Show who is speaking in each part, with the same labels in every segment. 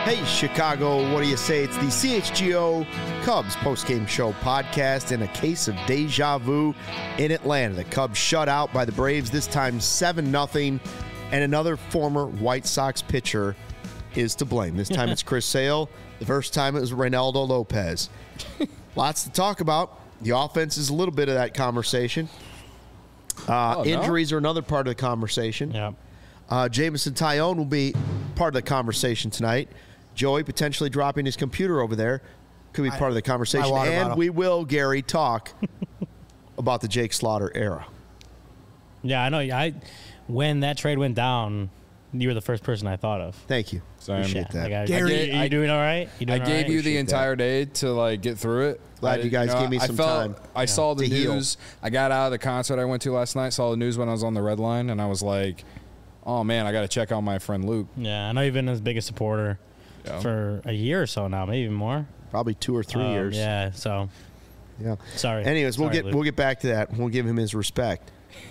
Speaker 1: Hey, Chicago, what do you say? It's the CHGO Cubs postgame show podcast and a case of deja vu in Atlanta. The Cubs shut out by the Braves, this time 7-0, and another former White Sox pitcher is to blame. This time it's Chris Sale. The first time it was Reynaldo Lopez. Lots to talk about. The offense is a little bit of that conversation. Injuries are another part of the conversation.
Speaker 2: Yeah.
Speaker 1: Jameson Taillon will be part of the conversation tonight. Joey potentially dropping his computer over there could be part of the conversation. And we will, Gary, talk about the Jake Slaughter era.
Speaker 2: Yeah, I know. When that trade went down, you were the first person I thought of.
Speaker 1: Thank you. Appreciate that.
Speaker 2: Gary, are you doing all right?
Speaker 3: I gave you the entire day to get through it.
Speaker 1: Glad you guys gave me some time.
Speaker 3: I saw the news. I got out of the concert I went to last night, saw the news when I was on the red line, and I was like, oh, man, I got to check on my friend Luke.
Speaker 2: Yeah, I know you've been his biggest supporter for a year or so now, maybe even more.
Speaker 1: Probably 2 or 3 years.
Speaker 2: Yeah, so.
Speaker 1: Yeah.
Speaker 2: Sorry.
Speaker 1: Anyways, we'll get back to that. We'll give him his respect.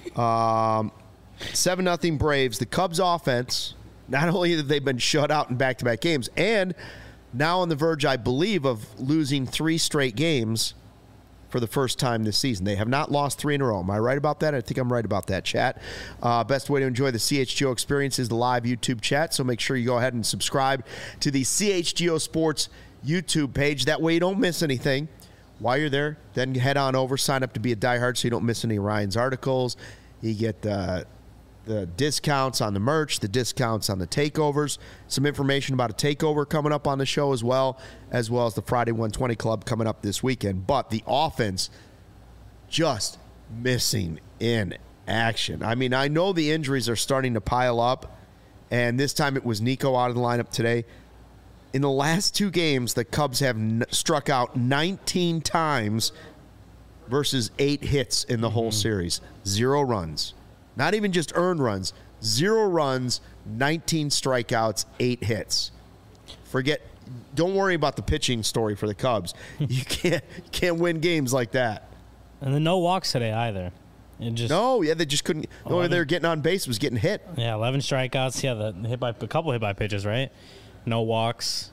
Speaker 1: 7-0 Braves. The Cubs offense, not only have they been shut out in back-to-back games, and now on the verge, I believe, of losing 3 straight games for the first time this season. They have not lost 3 in a row. Am I right about that? I think I'm right about that, chat. Best way to enjoy the CHGO experience is the live YouTube chat, so make sure you go ahead and subscribe to the CHGO Sports YouTube page. That way you don't miss anything. While you're there, then head on over, sign up to be a diehard so you don't miss any of Ryan's articles. You get the discounts on the merch, the discounts on the takeovers, some information about a takeover coming up on the show as well as the Friday 120 Club coming up this weekend. But the offense just missing in action. I mean, I know the injuries are starting to pile up, and this time it was Nico out of the lineup today. In the last 2 games, the Cubs have struck out 19 times versus 8 hits in the whole series. 0 runs. Not even just earned runs. 0 runs, 19 strikeouts, 8 hits. Don't worry about the pitching story for the Cubs. You can't win games like that.
Speaker 2: And then no walks today either.
Speaker 1: They just couldn't. The only way they were getting on base was getting hit.
Speaker 2: Yeah, 11 strikeouts. Yeah, a couple hit by pitches, right? No walks.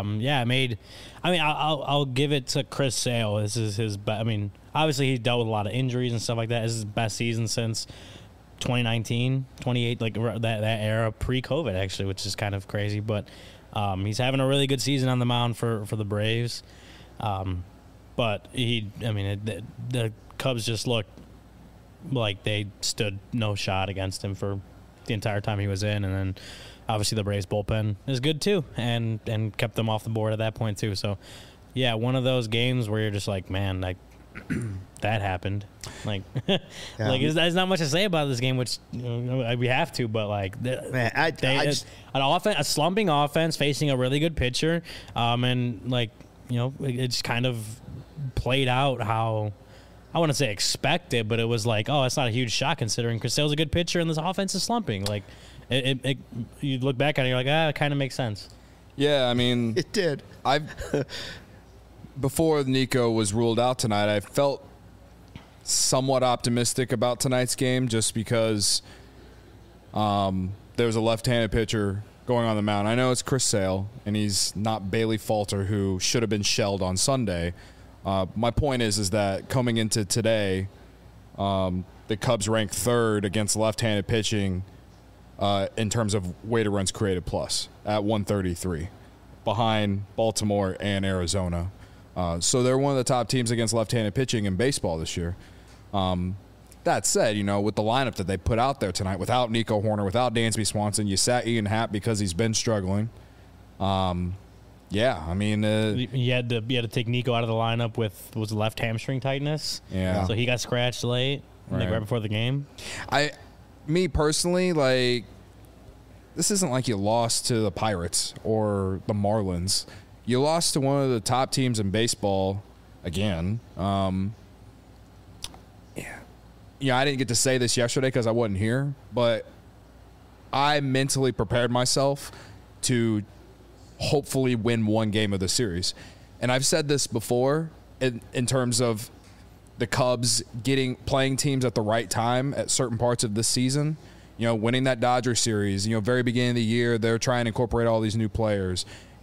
Speaker 2: I'll give it to Chris Sale. This is his best. I mean, obviously he dealt with a lot of injuries and stuff like that. This is his best season since 2019, 28, that era pre-COVID, actually, which is kind of crazy. But he's having a really good season on the mound for the Braves. But the Cubs just looked like they stood no shot against him for the entire time he was in, and then obviously the Braves bullpen is good too, and kept them off the board at that point too. So, yeah, one of those games where you're just like, man, that happened. There's not much to say about this game, which we have to, but a slumping offense facing a really good pitcher, it just kind of played out how. I wouldn't say expected, but it was like, oh, that's not a huge shock considering Chris Sale's a good pitcher and this offense is slumping. You look back at it, you're like, it kind of makes sense.
Speaker 3: Yeah, I mean,
Speaker 1: it did.
Speaker 3: Before Nico was ruled out tonight, I felt somewhat optimistic about tonight's game just because there was a left-handed pitcher going on the mound. I know it's Chris Sale, and he's not Bailey Falter, who should have been shelled on Sunday. My point is that coming into today, the Cubs ranked 3rd against left-handed pitching in terms of weighted runs created plus at 133, behind Baltimore and Arizona. So they're one of the top teams against left-handed pitching in baseball this year. That said, with the lineup that they put out there tonight, without Nico Hoerner, without Dansby Swanson, you sat Ian Happ because he's been struggling. Yeah, I mean,
Speaker 2: you had to take Nico out of the lineup with left hamstring tightness.
Speaker 3: Yeah,
Speaker 2: so he got scratched late, right before the game.
Speaker 3: Me personally, this isn't like you lost to the Pirates or the Marlins. You lost to one of the top teams in baseball again. I didn't get to say this yesterday because I wasn't here, but I mentally prepared myself to hopefully win one game of the series. And I've said this before in terms of the Cubs playing teams at the right time at certain parts of this season. Winning that Dodger series, very beginning of the year, they're trying to incorporate all these new players.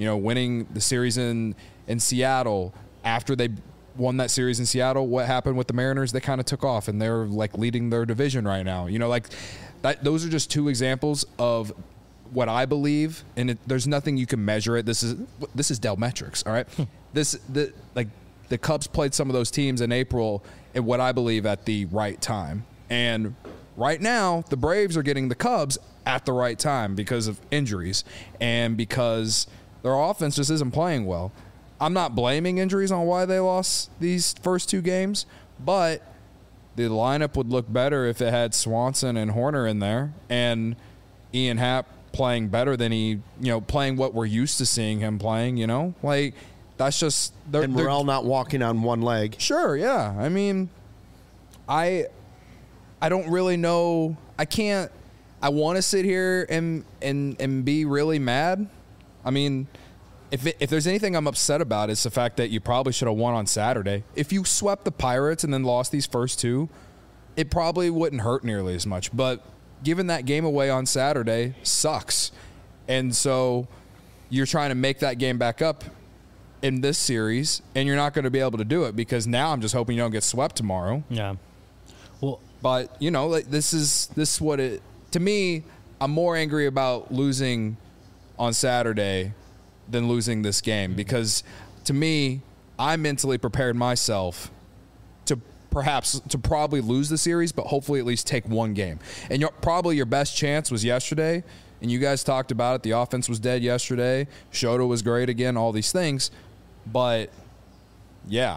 Speaker 3: winning the series in Seattle. After they won that series in Seattle, what happened with the Mariners? They kind of took off, and they're like leading their division right now. Like that. Those are just two examples of what I believe, and there's nothing you can measure it. This is Dell metrics, all right? The Cubs played some of those teams in April, and what I believe at the right time. And right now, the Braves are getting the Cubs at the right time because of injuries and because their offense just isn't playing well. I'm not blaming injuries on why they lost these first two games, but the lineup would look better if it had Swanson and Horner in there and Ian Happ playing better than playing what we're used to seeing him playing, Like, that's just...
Speaker 1: And Morel not walking on one leg.
Speaker 3: Sure, yeah. I mean, I don't really know. I want to sit here and be really mad. I mean, if there's anything I'm upset about, it's the fact that you probably should have won on Saturday. If you swept the Pirates and then lost these first two, it probably wouldn't hurt nearly as much. But giving that game away on Saturday sucks. And so you're trying to make that game back up in this series, and you're not going to be able to do it because now I'm just hoping you don't get swept tomorrow.
Speaker 2: Yeah. Well,
Speaker 3: but this is what it. To me, I'm more angry about losing on Saturday than losing this game because, to me, I mentally prepared myself to probably lose the series, but hopefully at least take one game. And probably your best chance was yesterday, and you guys talked about it. The offense was dead yesterday. Shota was great again, all these things. But, yeah,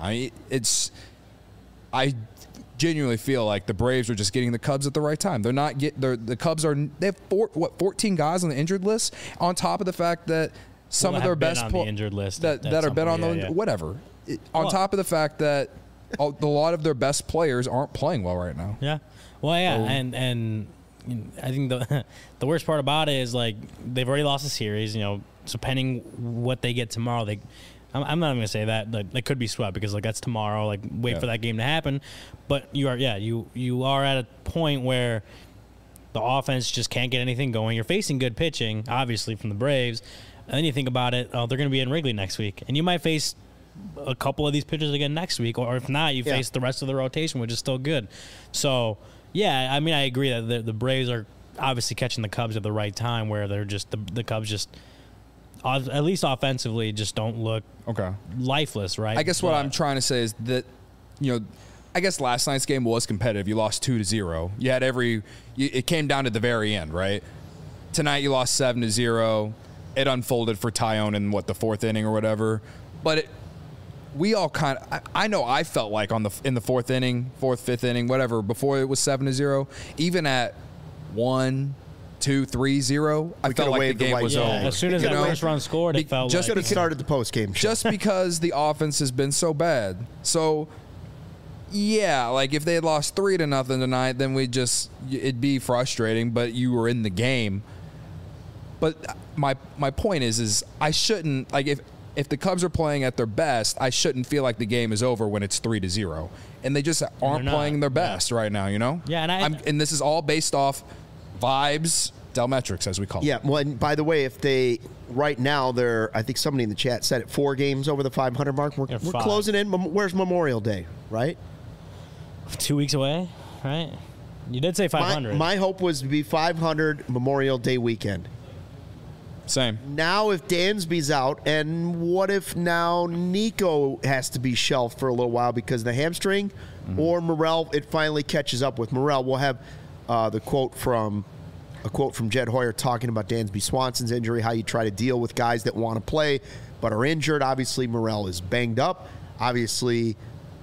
Speaker 3: I genuinely feel like the Braves are just getting the Cubs at the right time. The Cubs they have 14 guys on the injured list on top of the fact that some of their best
Speaker 2: the injured list
Speaker 3: that are been on the whatever. On top of the fact that a lot of their best players aren't playing well right now.
Speaker 2: Yeah. Well, yeah, and I think the worst part about it is like they've already lost a series, so pending what they get tomorrow, I'm not even gonna say that they could be swept because that's tomorrow. Wait for that game to happen, but you are at a point where the offense just can't get anything going. You're facing good pitching, obviously from the Braves, and then you think about it. They're gonna be in Wrigley next week, and you might face a couple of these pitchers again next week, or if not, you face the rest of the rotation, which is still good. So yeah, I mean, I agree that the Braves are obviously catching the Cubs at the right time, where they're just the Cubs just. At least offensively, just don't look lifeless, right?
Speaker 3: I guess what I'm trying to say is that, I guess last night's game was competitive. You lost 2-0. You had it came down to the very end, right? Tonight you lost 7-0. It unfolded for Tyone in the fourth inning or whatever. But we all I know I felt like in the fourth inning, fifth inning, whatever, before it was 7-0, even at 1-2-3-0, I felt like the game was over.
Speaker 2: As soon as that first run scored, it felt
Speaker 1: just like it started the post game.
Speaker 3: Just because the offense has been so bad. So, yeah, if they had lost 3-0 tonight, then it'd be frustrating. But you were in the game. But my point is I shouldn't if the Cubs are playing at their best, I shouldn't feel like the game is over when it's 3-0, and they just aren't playing their best right now.
Speaker 2: Yeah,
Speaker 3: and this is all based off vibes, Dell metrics, as we call it.
Speaker 1: Yeah, well, and by the way, if they right now I think somebody in the chat said it 4 games over the 500 mark. We're closing in. Where's Memorial Day, right?
Speaker 2: 2 weeks away, right? You did say 500.
Speaker 1: My hope was to be 500 Memorial Day weekend.
Speaker 3: Same.
Speaker 1: Now, if Dansby's out, and what if now Nico has to be shelved for a little while because of the hamstring, or Morel, it finally catches up with Morel. We'll have a quote from Jed Hoyer talking about Dansby Swanson's injury, how you try to deal with guys that want to play but are injured. Obviously, Morel is banged up. Obviously,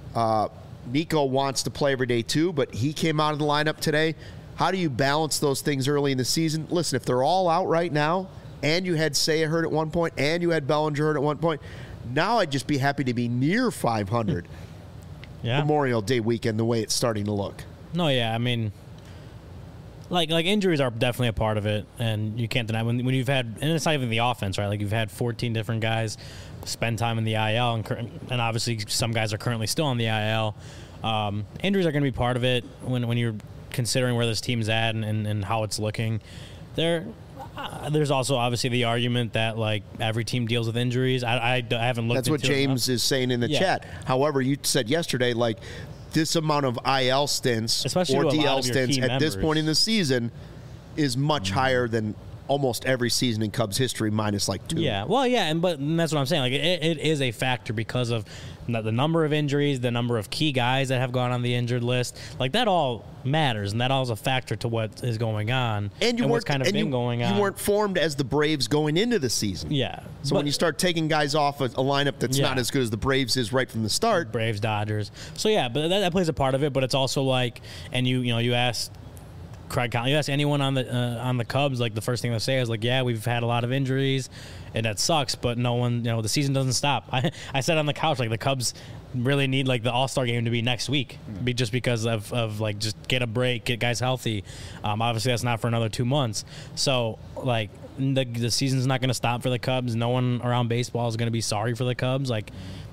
Speaker 1: Nico wants to play every day too, but he came out of the lineup today. How do you balance those things early in the season? Listen, if they're all out right now, and you had Seiya hurt at one point, and you had Bellinger hurt at one point, now I'd just be happy to be near 500 Memorial Day weekend the way it's starting to look.
Speaker 2: No, yeah, I mean, like injuries are definitely a part of it, and you can't deny when you've had, and it's not even the offense, right? You've had 14 different guys spend time in the IL, and obviously some guys are currently still on the IL. Injuries are going to be part of it when you're considering where this team's at and how it's looking. There's also obviously the argument that like every team deals with injuries. I haven't looked.
Speaker 1: That's what
Speaker 2: into it
Speaker 1: James is saying in the chat. However, you said yesterday, like this amount of IL stints
Speaker 2: Especially
Speaker 1: or
Speaker 2: to a lot
Speaker 1: DL
Speaker 2: of your
Speaker 1: stints
Speaker 2: key
Speaker 1: at this
Speaker 2: members.
Speaker 1: point in the season is much higher than almost every season in Cubs history, minus like 2.
Speaker 2: Yeah, well, yeah, and that's what I'm saying. Like, it is a factor because of the number of injuries, the number of key guys that have gone on the injured list. Like, that all matters, and that all is a factor to what is going on
Speaker 1: And you
Speaker 2: what's
Speaker 1: weren't
Speaker 2: kind of been going on.
Speaker 1: You weren't formed as the Braves going into the season.
Speaker 2: Yeah.
Speaker 1: So when you start taking guys off a lineup that's
Speaker 2: Yeah.
Speaker 1: not as good as the Braves is right from the start,
Speaker 2: Braves, Dodgers. So yeah, but that plays a part of it. But it's also like, and you asked Craig Collins, you ask anyone on the Cubs, like the first thing they'll say is like, yeah, we've had a lot of injuries, and that sucks. But no one, the season doesn't stop. I said on the couch like the Cubs really need like the All-Star game to be next week, just because of like just get a break, get guys healthy. Obviously that's not for another 2 months. So like the season's not going to stop for the Cubs. No one around baseball is going to be sorry for the Cubs. Like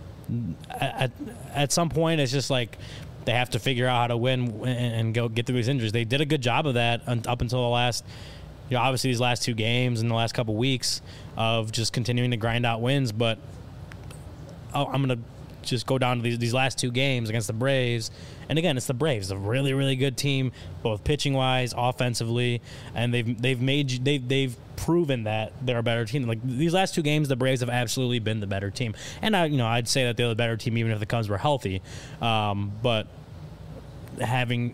Speaker 2: at some point, it's just like they have to figure out how to win and go get through these injuries. They did a good job of that up until the last, obviously these last 2 games and the last couple weeks of just continuing to grind out wins. But I'm going to just go down to these last 2 games against the Braves. And again, it's the Braves, a really, really good team, both pitching wise, offensively, and they've proven that they're a better team. Like these last 2 games, the Braves have absolutely been the better team. And I'd say that they're the better team even if the Cubs were healthy. But having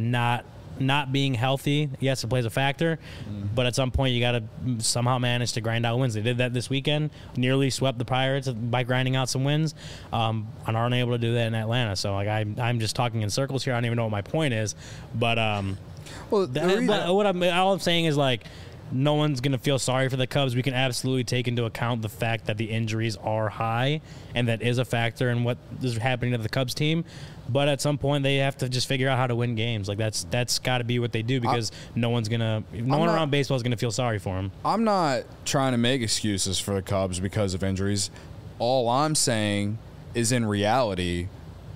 Speaker 2: not being healthy, yes, it plays a factor. But at some point, you got to somehow manage to grind out wins. They did that this weekend, nearly swept the Pirates by grinding out some wins, and aren't able to do that in Atlanta. So like I'm just talking in circles here. I don't even know what my point is, but all I'm saying is like no one's going to feel sorry for the Cubs. We can absolutely take into account the fact that the injuries are high, and that is a factor in what is happening to the Cubs team. But at some point, they have to just figure out how to win games. Like that's got to be what they do, because no one around baseball is gonna feel sorry for them.
Speaker 3: I'm not trying to make excuses for the Cubs because of injuries. All I'm saying is, in reality,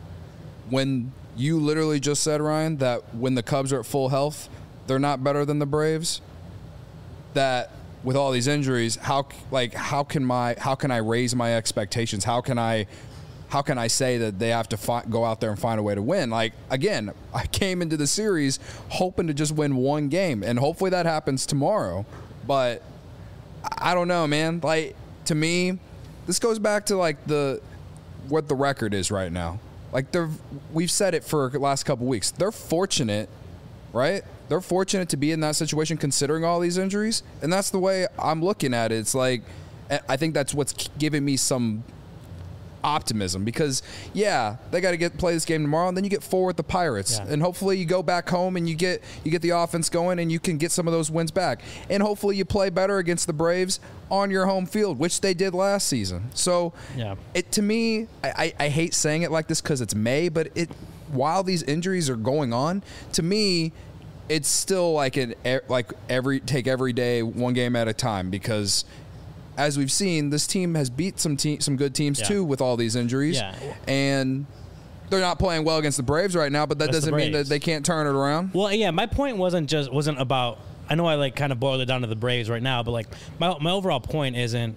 Speaker 3: when you literally just said, Ryan, that when the Cubs are at full health, they're not better than the Braves. That with all these injuries, how can I raise my expectations? How can I say that they have to go out there and find a way to win? Like, again, I came into the series hoping to just win 1 game, and hopefully that happens tomorrow. But I don't know, man. Like, to me, this goes back to like what the record is right now. Like, we've said it for the last couple weeks. They're fortunate, right? They're fortunate to be in that situation considering all these injuries, and that's the way I'm looking at it. It's like, I think that's what's giving me some optimism, because they got to play this game tomorrow, and then you get 4 with the Pirates, and hopefully you go back home and you get the offense going, and you can get some of those wins back, and hopefully you play better against the Braves on your home field, which they did last season. So to me, I hate saying it like this because it's May, but while these injuries are going on, to me it's still like take every day 1 game at a time, because as we've seen, this team has beat some good teams too with all these injuries, and they're not playing well against the Braves right now. But that doesn't mean that they can't turn it around.
Speaker 2: Well, yeah, my point wasn't about. I know I like kind of boiled it down to the Braves right now, but like my overall point isn't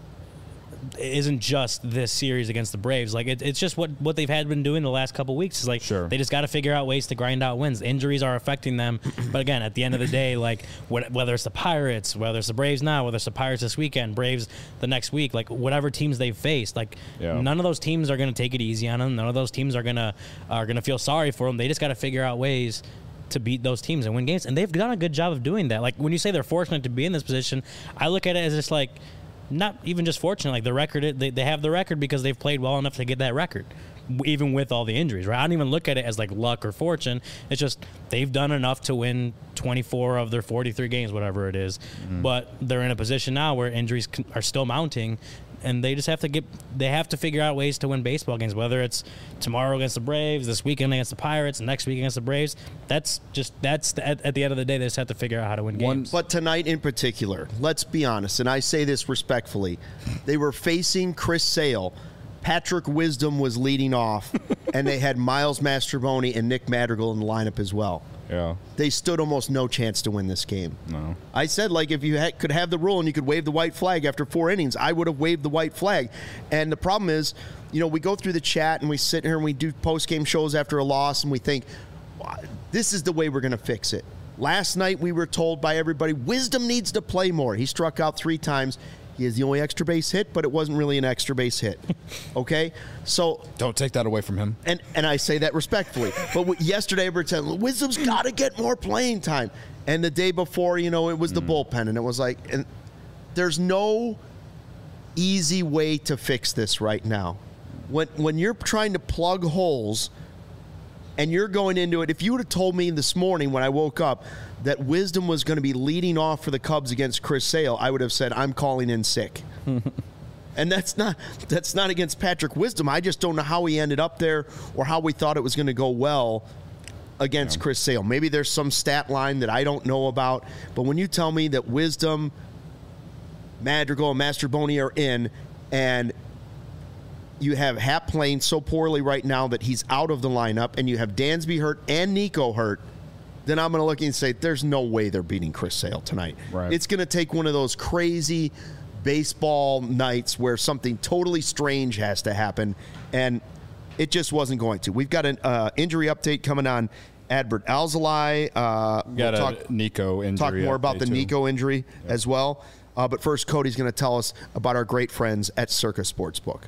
Speaker 2: just this series against the Braves. Like it's just what they've been doing the last couple of weeks. Is like they just got to figure out ways to grind out wins. Injuries are affecting them, but again, at the end of the day, like whether it's the Pirates, whether it's the Braves now, whether it's the Pirates this weekend, Braves the next week, like whatever teams they've faced, like none of those teams are going to take it easy on them. None of those teams are gonna feel sorry for them. They just got to figure out ways to beat those teams and win games, and they've done a good job of doing that. Like when you say they're fortunate to be in this position, I look at it as just like, not even just fortunate, like the record, they have the record because they've played well enough to get that record, even with all the injuries, right? I don't even look at it as like luck or fortune. It's just they've done enough to win 24 of their 43 games, whatever it is. But they're in a position now where injuries are still mounting, and they just have to figure out ways to win baseball games, whether it's tomorrow against the Braves, this weekend against the Pirates, and next week against the Braves. At the end of the day, they just have to figure out how to win games.
Speaker 1: But tonight in particular, let's be honest, and I say this respectfully, they were facing Chris Sale. Patrick Wisdom was leading off, and they had Miles Mastrobuoni and Nick Madrigal in the lineup as well.
Speaker 3: Yeah.
Speaker 1: They stood almost no chance to win this game.
Speaker 3: No.
Speaker 1: I said, like, if you could have the rule and you could wave the white flag after 4 innings, I would have waved the white flag. And the problem is, we go through the chat and we sit here and we do post-game shows after a loss and we think, this is the way we're going to fix it. Last night we were told by everybody, Wisdom needs to play more. He struck out 3 times. He is the only extra base hit, but it wasn't really an extra base hit. Okay? So
Speaker 3: don't take that away from him.
Speaker 1: And I say that respectfully. But yesterday we were telling Wisdom's got to get more playing time. And the day before, it was the bullpen. And it was like, and there's no easy way to fix this right now. When you're trying to plug holes and you're going into it, if you would have told me this morning when I woke up that Wisdom was going to be leading off for the Cubs against Chris Sale, I would have said, I'm calling in sick. And that's not against Patrick Wisdom. I just don't know how he ended up there or how we thought it was going to go well against Chris Sale. Maybe there's some stat line that I don't know about. But when you tell me that Wisdom, Madrigal, and Mastroboni are in, and you have Happ playing so poorly right now that he's out of the lineup, and you have Dansby hurt and Nico hurt, then I'm going to look and say, there's no way they're beating Chris Sale tonight. Right. It's going to take one of those crazy baseball nights where something totally strange has to happen, and it just wasn't going to. We've got an injury update coming on Adbert Alzolay.
Speaker 3: We'll talk Nico injury.
Speaker 1: Talk more about the Nico injury as well. But first, Cody's going to tell us about our great friends at Circa Sportsbook.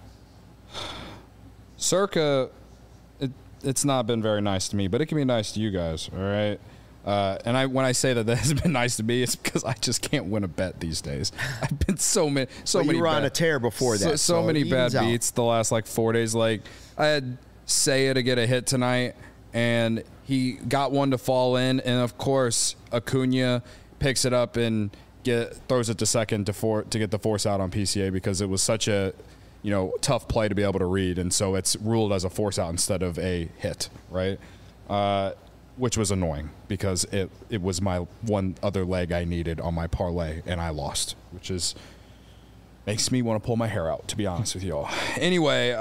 Speaker 3: Circa, it's not been very nice to me, but it can be nice to you guys, all right? And when I say that has been nice to me, it's because I just can't win a bet these days. I've been so many.
Speaker 1: You were on a tear before that.
Speaker 3: So many bad beats the last 4 days. Like I had Seiya to get a hit tonight, and he got one to fall in, and of course Acuna picks it up and throws it to second to get the force out on PCA because it was such a tough play to be able to read, and so it's ruled as a force out instead of a hit, right? Which was annoying because it was my one other leg I needed on my parlay, and I lost, which makes me want to pull my hair out, to be honest with you all. Anyway,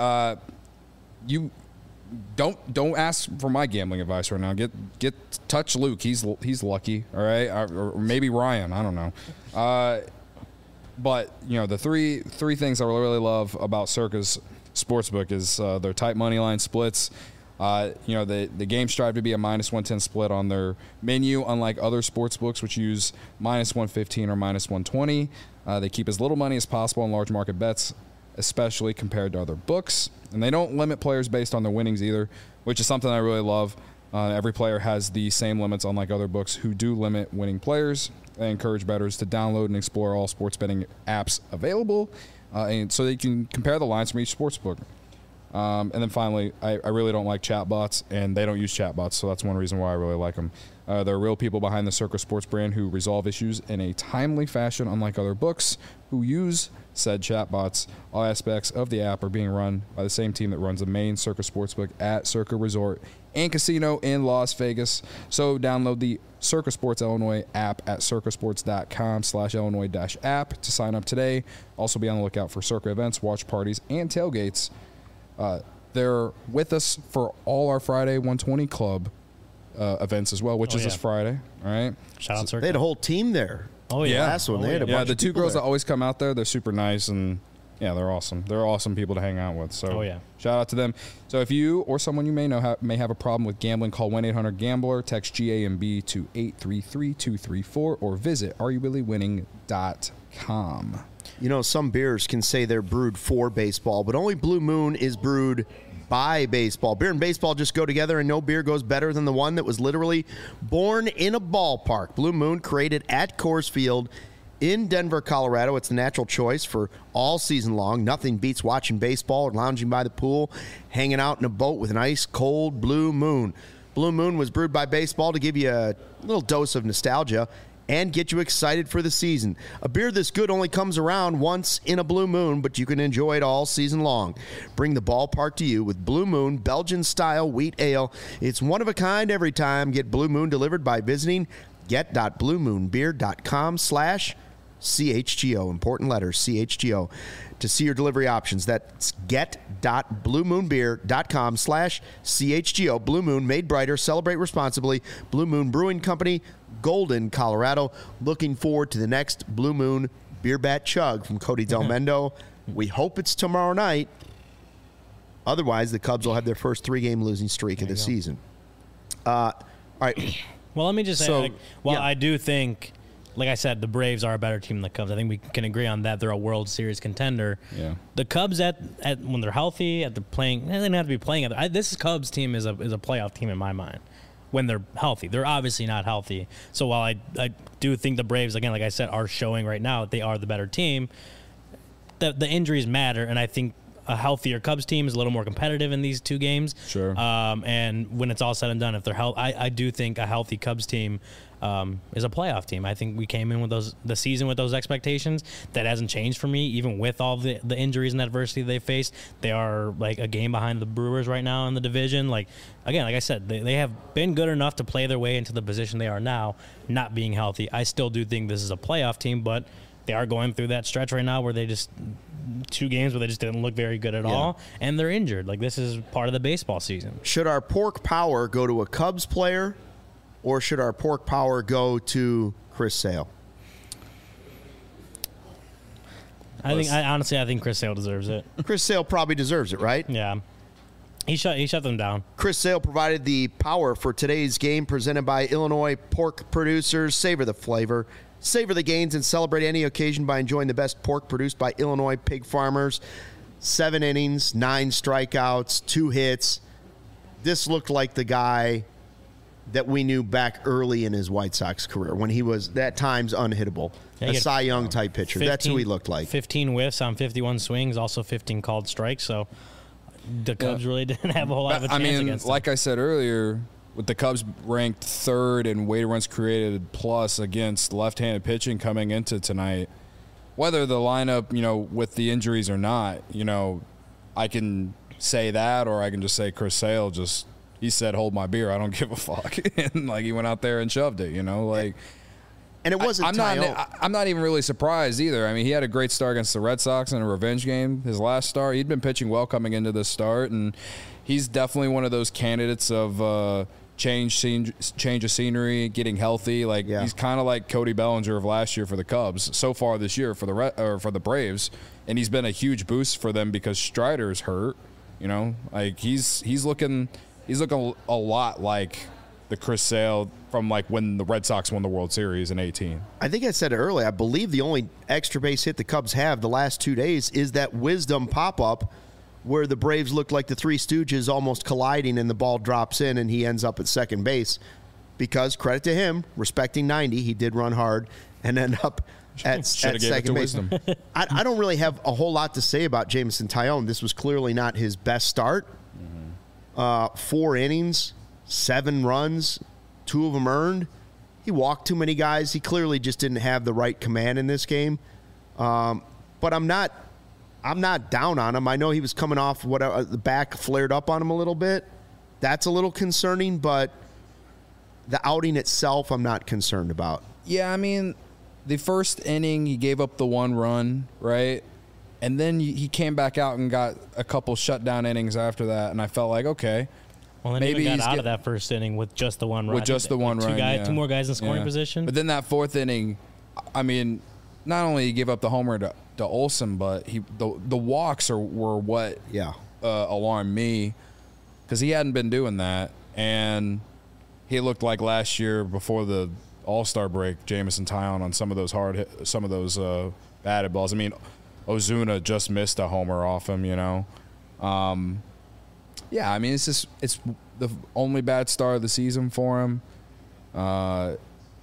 Speaker 3: you don't ask for my gambling advice right now. Get touch Luke. He's lucky, all right, or maybe Ryan. I don't know. But the three things I really love about Circa's Sportsbook is their tight money line splits. The games strive to be a -110 split on their menu, unlike other sportsbooks which use -115 or -120. They keep as little money as possible on large market bets, especially compared to other books. And they don't limit players based on their winnings either, which is something I really love. Every player has the same limits, unlike other books who do limit winning players. They encourage bettors to download and explore all sports betting apps available, and so they can compare the lines from each sportsbook. And then finally, I really don't like chatbots, and they don't use chatbots, so that's one reason why I really like them. There are real people behind the Circa Sports brand who resolve issues in a timely fashion, unlike other books who use said chatbots. All aspects of the app are being run by the same team that runs the main Circa Sportsbook at Circa Resort and Casino in Las Vegas. So download the Circa Sports Illinois app at circasports.com/Illinois-app to sign up today. Also be on the lookout for Circa events, watch parties, and tailgates. They're with us for all our Friday 120 Club events as well, which is this Friday. All right.
Speaker 2: Shout out Circa.
Speaker 1: They had a whole team there.
Speaker 2: Oh, yeah.
Speaker 1: Last one. They had a bunch
Speaker 3: the
Speaker 1: of
Speaker 3: two
Speaker 1: people
Speaker 3: girls
Speaker 1: there.
Speaker 3: that always come out there, they're super nice, and yeah, they're awesome. They're awesome people to hang out with. So shout out to them. So if you or someone you may know may have a problem with gambling, call 1-800-GAMBLER, text GAMB to 833-234, or visit areyoubillywinning.com.
Speaker 1: Some beers can say they're brewed for baseball, but only Blue Moon is brewed by baseball. Beer and baseball just go together, and no beer goes better than the one that was literally born in a ballpark. Blue Moon, created at Coors Field in Denver, Colorado. It's the natural choice for all season long. Nothing beats watching baseball or lounging by the pool, hanging out in a boat with an ice-cold Blue Moon. Blue Moon was brewed by baseball to give you a little dose of nostalgia and get you excited for the season. A beer this good only comes around once in a Blue Moon, but you can enjoy it all season long. Bring the ballpark to you with Blue Moon Belgian-style wheat ale. It's one of a kind every time. Get Blue Moon delivered by visiting get.bluemoonbeer.com/Blue CHGO, important letters, CHGO, to see your delivery options. That's get.bluemoonbeer.com/CHGO. Blue Moon, made brighter, celebrate responsibly. Blue Moon Brewing Company, Golden, Colorado. Looking forward to the next Blue Moon Beer Bat Chug from Cody Del Mendo. We hope it's tomorrow night. Otherwise, the Cubs will have their first 3-game losing streak of the season. All right.
Speaker 2: Well, let me just say,
Speaker 1: So,
Speaker 2: I do think, like I said, the Braves are a better team than the Cubs. I think we can agree on that. They're a World Series contender.
Speaker 3: Yeah.
Speaker 2: The Cubs, at when they're healthy, they're playing, they don't have to be playing. This Cubs team is a playoff team in my mind when they're healthy. They're obviously not healthy. So while I do think the Braves, again, like I said, are showing right now that they are the better team, the injuries matter, and I think a healthier Cubs team is a little more competitive in these 2 games.
Speaker 3: Sure.
Speaker 2: And when it's all said and done, if they're I do think a healthy Cubs team is a playoff team. I think we came in with the season with those expectations. That hasn't changed for me, even with all the injuries and adversity they faced. They are like a game behind the Brewers right now in the division. Like I said, they have been good enough to play their way into the position they are now, not being healthy. I still do think this is a playoff team, but they are going through that stretch right now where they just 2 games where they just didn't look very good at all, and they're injured. Like, this is part of the baseball season.
Speaker 1: Should our pork power go to a Cubs player, or should our pork power go to Chris Sale?
Speaker 2: I think Chris Sale deserves it.
Speaker 1: Chris Sale probably deserves it, right?
Speaker 2: Yeah. He shut them down.
Speaker 1: Chris Sale provided the power for today's game, presented by Illinois Pork Producers. Savor the flavor, savor the gains, and celebrate any occasion by enjoying the best pork produced by Illinois pig farmers. 7 innings, 9 strikeouts, 2 hits. This looked like the guy that we knew back early in his White Sox career when he was, at times, unhittable.
Speaker 2: Yeah,
Speaker 1: a Cy Young type pitcher. That's who he looked like.
Speaker 2: 15 whiffs on 51 swings, also 15 called strikes. So the Cubs really didn't have a whole lot of a chance against them.
Speaker 3: Like I said earlier, with the Cubs ranked 3rd in weighted runs created plus against left-handed pitching coming into tonight, whether the lineup, with the injuries or not, I can say that, or I can just say Chris Sale he said, hold my beer, I don't give a fuck. And, he went out there and shoved it,
Speaker 1: And it wasn't
Speaker 3: I'm not even really surprised either. I mean, he had a great start against the Red Sox in a revenge game. His last start, he'd been pitching well coming into this start, and he's definitely one of those candidates of change of scenery, getting healthy. He's kind of like Cody Bellinger of last year for the Cubs so far this year for the Braves, and he's been a huge boost for them because Strider's hurt. He's looking a lot like the Chris Sale from when the Red Sox won the World Series in 2018.
Speaker 1: I think I said it earlier. I believe the only extra base hit the Cubs have the last 2 days is that Wisdom pop-up where the Braves look like the Three Stooges almost colliding and the ball drops in and he ends up at second base. Because, credit to him, respecting 90, he did run hard and end up at second base. I don't really have a whole lot to say about Jameson Taillon. This was clearly not his best start. 4 innings, 7 runs, 2 of them earned. He walked too many guys. He clearly just didn't have the right command in this game. But I'm not down on him. I know he was coming off the back flared up on him a little bit. That's a little concerning, but the outing itself I'm not concerned about.
Speaker 3: Yeah, I mean, the first inning he gave up the 1 run, right? And then he came back out and got a couple shutdown innings after that, and I felt like, okay.
Speaker 2: Well, then maybe he got out of that first inning with just the 1 run.
Speaker 3: With just the 1 run,
Speaker 2: 2 more guys in scoring position.
Speaker 3: But then that 4th inning, I mean, not only he gave up the homer to Olsen, but the walks were what alarmed me because he hadn't been doing that, and he looked like last year before the All-Star break, Jameson Taillon on some of those batted balls. I mean, Ozuna just missed a homer off him, Yeah, I mean, it's the only bad start of the season for him. And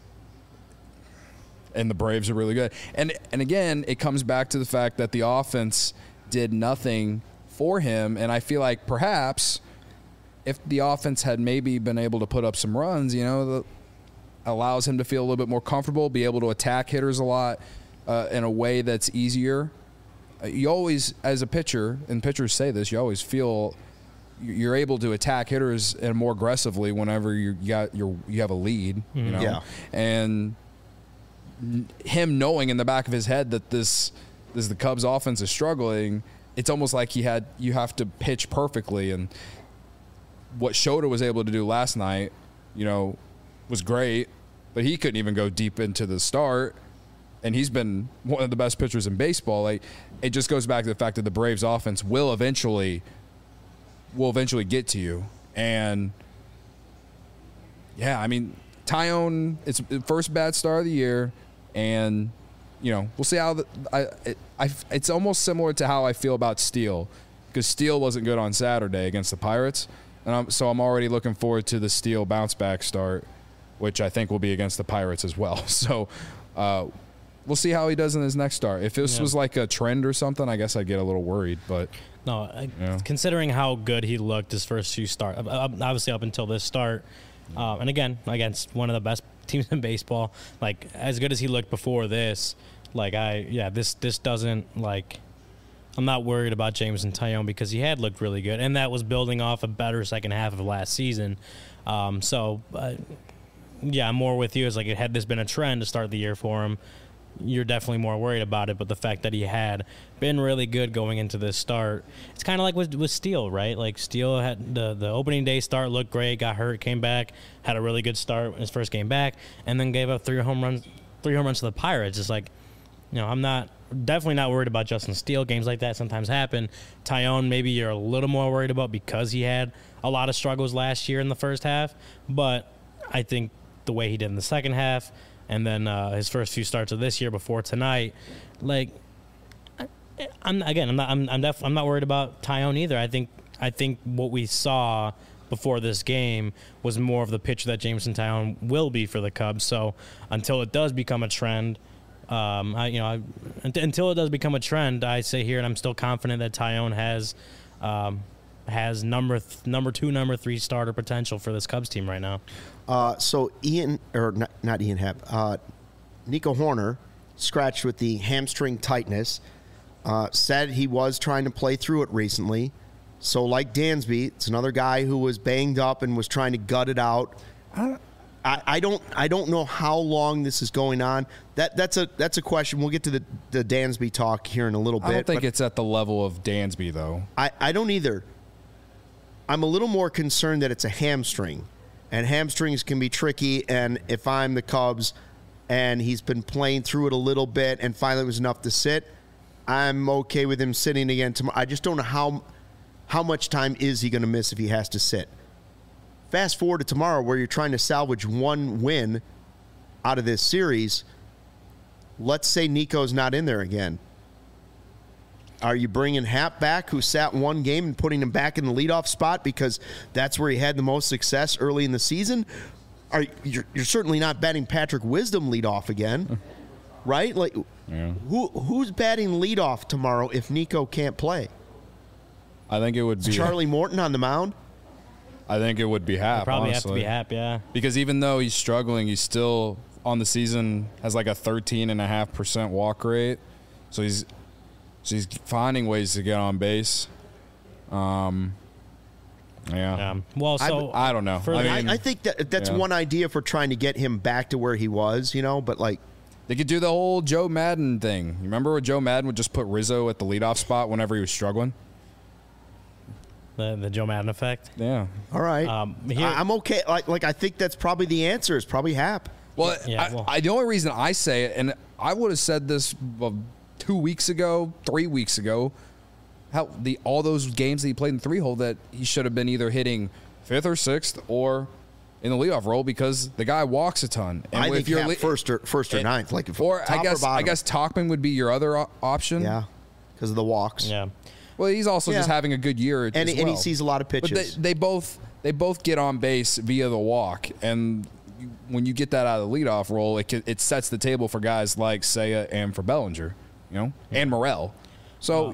Speaker 3: the Braves are really good. And again, it comes back to the fact that the offense did nothing for him, and I feel like perhaps if the offense had maybe been able to put up some runs, allows him to feel a little bit more comfortable, be able to attack hitters a lot in a way that's easier. You always, as a pitcher, and pitchers say this, you always feel you're able to attack hitters and more aggressively whenever you have a lead, Yeah. And him knowing in the back of his head that this the Cubs offense is struggling, it's almost like you have to pitch perfectly. And what Shota was able to do last night, was great, but he couldn't even go deep into the start. And he's been one of the best pitchers in baseball. Like, it just goes back to the fact that the Braves offense will eventually get to you. And yeah, I mean, Taillon, it's the first bad start of the year, and we'll see how it's almost similar to how I feel about Steele, because Steele wasn't good on Saturday against the Pirates, and I'm already looking forward to the Steele bounce back start, which I think will be against the Pirates as well. So we'll see how he does in his next start. If this was like a trend or something, I guess I'd get a little worried. But
Speaker 2: no, considering how good he looked his first few starts, obviously up until this start, and again against one of the best teams in baseball, like as good as he looked before this, this doesn't, like, I'm not worried about Jameson Taillon because he had looked really good, and that was building off a better second half of last season. I'm more with you. It's like, had this been a trend to start the year for him, you're definitely more worried about it. But the fact that he had been really good going into this start, it's kind of like with Steele, right? Like, Steele had the opening day start, looked great, got hurt, came back, had a really good start in his first game back, and then gave up three home runs to the Pirates. It's like, I'm definitely not worried about Justin Steele. Games like that sometimes happen. Taillon, maybe you're a little more worried about because he had a lot of struggles last year in the first half, but I think the way he did in the second half, and then his first few starts of this year before tonight, like, I'm not worried about Taillon either. I think what we saw before this game was more of the pitcher that Jameson Taillon will be for the Cubs. So until it does become a trend, until it does become a trend, I say here, and I'm still confident that Taillon has number 2, number 3 starter potential for this Cubs team right now.
Speaker 1: So not Ian Happ, Nico Horner, scratched with the hamstring tightness, said he was trying to play through it recently. So like Dansby, it's another guy who was banged up and was trying to gut it out. I don't know how long this is going on. That's a question. We'll get to the Dansby talk here in a little bit.
Speaker 3: I don't think it's at the level of Dansby, though.
Speaker 1: I don't either. I'm a little more concerned that it's a hamstring, and hamstrings can be tricky. And if I'm the Cubs and he's been playing through it a little bit and finally it was enough to sit, I'm okay with him sitting again tomorrow. I just don't know how much time is he going to miss if he has to sit. Fast forward to tomorrow where you're trying to salvage one win out of this series. Let's say Nico's not in there again. Are you bringing Happ back, who sat one game, and putting him back in the leadoff spot because that's where he had the most success early in the season? You're certainly not batting Patrick Wisdom leadoff again, right? Like, who's batting leadoff tomorrow if Nico can't play?
Speaker 3: I think it would be
Speaker 1: Charlie Morton on the mound.
Speaker 3: I think it would be Happ.
Speaker 2: Probably
Speaker 3: honestly.
Speaker 2: have to be Happ, yeah.
Speaker 3: Because even though he's struggling, he's still on the season has like a 13.5% walk rate. So he's finding ways to get on base. Yeah.
Speaker 2: Well, so
Speaker 3: I don't know.
Speaker 1: I think that's one idea for trying to get him back to where he was, but like
Speaker 3: they could do the whole Joe Madden thing. You remember when Joe Madden would just put Rizzo at the leadoff spot whenever he was struggling?
Speaker 2: The Joe Madden effect.
Speaker 3: Yeah.
Speaker 1: All right. I'm okay. Like I think that's probably the answer. Is probably Happ.
Speaker 3: Well, the only reason I say it, and I would have said this 2 weeks ago, 3 weeks ago, all those games that he played in the 3-hole, that he should have been either hitting 5th or 6th or in the leadoff role because the guy walks a ton. And
Speaker 1: I think Happ first or 9th, like
Speaker 3: I guess Tauchman would be your other option.
Speaker 1: Yeah, because of the walks.
Speaker 2: Yeah.
Speaker 3: Well, he's also just having a good year,
Speaker 1: and he sees a lot of pitches.
Speaker 3: But they both get on base via the walk, and when you get that out of the leadoff role, it sets the table for guys like Seiya and for Bellinger, and Morel. So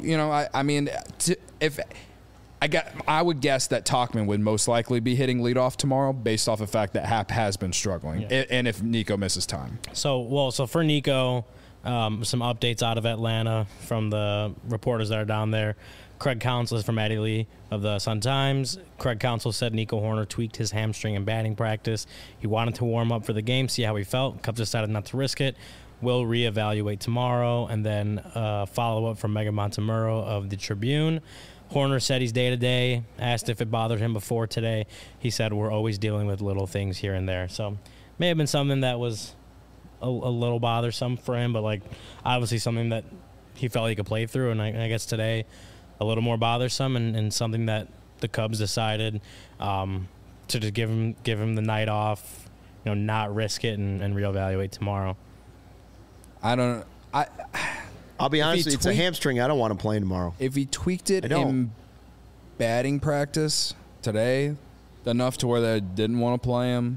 Speaker 3: I would guess that Tauchman would most likely be hitting leadoff tomorrow, based off the fact that Happ has been struggling, and if Nico misses time.
Speaker 2: So for Nico. Some updates out of Atlanta from the reporters that are down there. Craig Counsell is from Maddie Lee of the Sun-Times. Craig Counsell said Nico Horner tweaked his hamstring in batting practice. He wanted to warm up for the game, see how he felt. Cubs decided not to risk it. will reevaluate tomorrow, and then follow-up from Mega Montemurro of the Tribune. Horner said he's day-to-day. Asked if it bothered him before today. He said, we're always dealing with little things here and there. So may have been something that was a little bothersome for him, but, like, obviously something that he felt he could play through. And I guess today a little more bothersome and something that the Cubs decided to just give him the night off, not risk it and reevaluate tomorrow.
Speaker 1: I'll be honest, it's a hamstring. I don't want him playing tomorrow.
Speaker 3: If he tweaked it in batting practice today enough to where they didn't want to play him,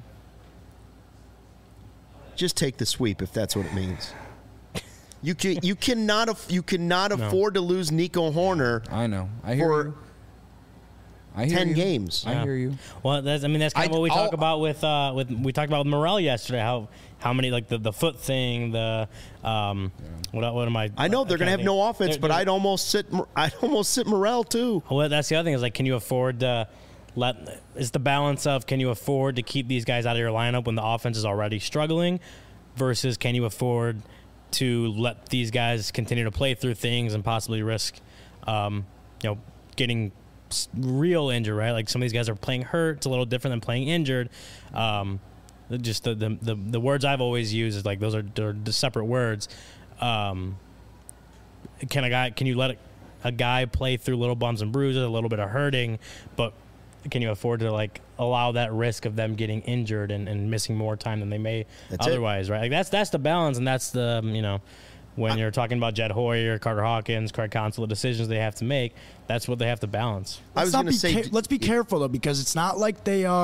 Speaker 1: just take the sweep if that's what it means. You cannot afford to lose Nico Horner.
Speaker 3: I know. I hear you.
Speaker 1: 10 games.
Speaker 3: I hear you.
Speaker 2: Well, that's kind of what we talk about with Morel yesterday. How many, like, the foot thing, what am I?
Speaker 1: I know they're going to have no offense, but I'd almost sit Morel too.
Speaker 2: Well, that's the other thing is, like, can you afford to it's the balance of, can you afford to keep these guys out of your lineup when the offense is already struggling, versus can you afford to let these guys continue to play through things and possibly risk, getting real injured, right? Like, some of these guys are playing hurt. It's a little different than playing injured. Just the words I've always used is, like, they're the separate words. Can you let a guy play through little bumps and bruises, a little bit of hurting, but can you afford to, like, allow that risk of them getting injured and missing more time than they may otherwise, right? Like, that's the balance, and that's the when you're talking about Jed Hoyer, Carter Hawkins, Craig Counsell, the decisions they have to make, that's what they have to balance.
Speaker 4: Let's be careful, though, because it's not like